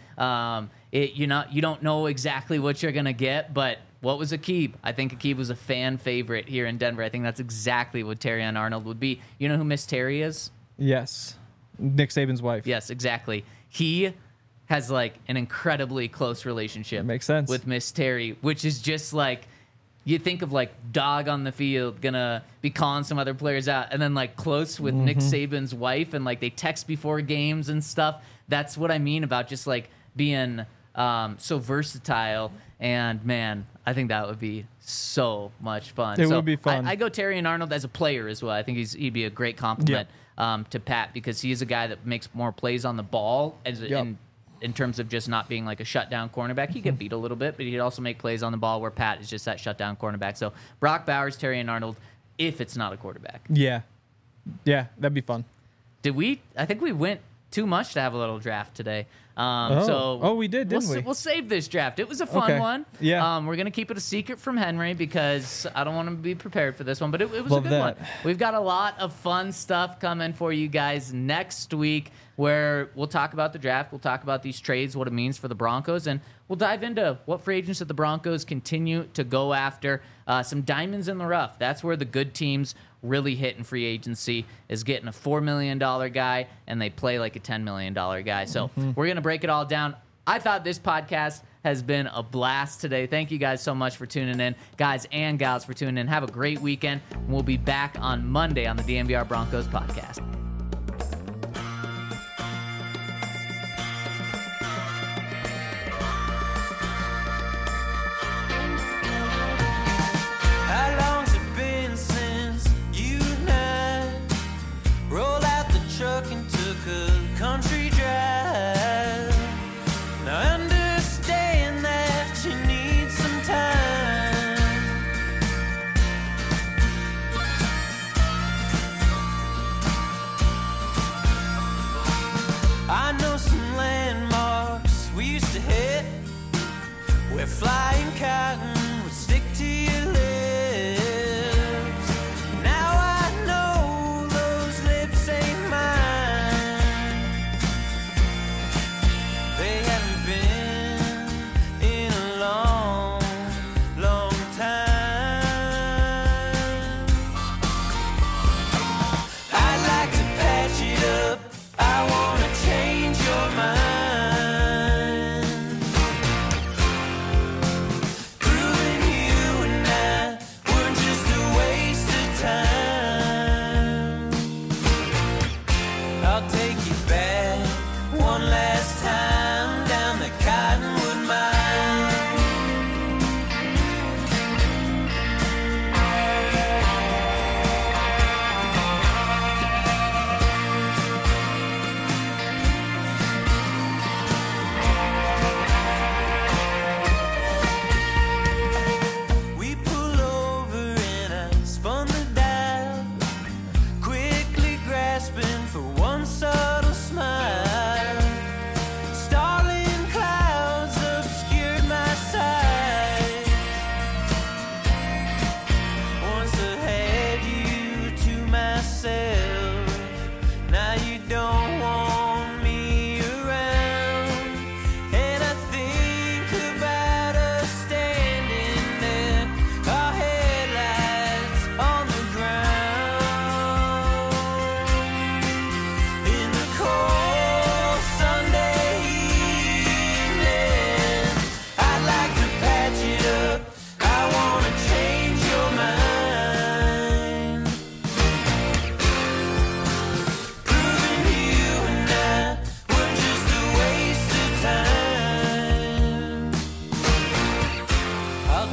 A: You don't know exactly what you're gonna get, but what was Aqib? I think Aqib was a fan favorite here in Denver. I think that's exactly what Terrion Arnold would be. You know who Miss Terry is?
C: Yes, Nick Saban's wife.
A: Yes, exactly. He has like an incredibly close relationship.
C: Makes sense.
A: With Miss Terry, which is just like you think of like dog on the field gonna be calling some other players out, and then like close with Nick Saban's wife, and like they text before games and stuff. That's what I mean about just like being so versatile. And man, I think that would be so much fun.
C: It would be fun.
A: I go Terrion Arnold as a player as well. I think he'd be a great compliment to Pat because he's a guy that makes more plays on the ball in terms of just not being like a shutdown cornerback. He get beat a little bit, but he'd also make plays on the ball where Pat is just that shutdown cornerback. So Brock Bowers, Terrion Arnold, if it's not a quarterback.
C: Yeah, that'd be fun.
A: I think we went too much to have a little draft today.
C: We did, didn't we?
A: We'll save this draft. It was a fun one.
C: Yeah.
A: We're going to keep it a secret from Henry because I don't want to be prepared for this one, but it was
C: Love
A: a good
C: that.
A: one. We've got a lot of fun stuff coming for you guys next week where we'll talk about the draft. We'll talk about these trades, what it means for the Broncos, and we'll dive into what free agents that the Broncos continue to go after. Some diamonds in the rough. That's where the good teams really hit in free agency is getting a $4 million guy and they play like a $10 million guy. So we're going to break it all down. I thought this podcast has been a blast today. Thank you guys so much for tuning in. Guys and gals for tuning in. Have a great weekend. We'll be back on Monday on the DNVR Broncos podcast.
E: How long's it been since you and I rolled out the truck and took a country drive? Now I understand that you need some time.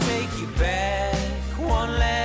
E: take you back one last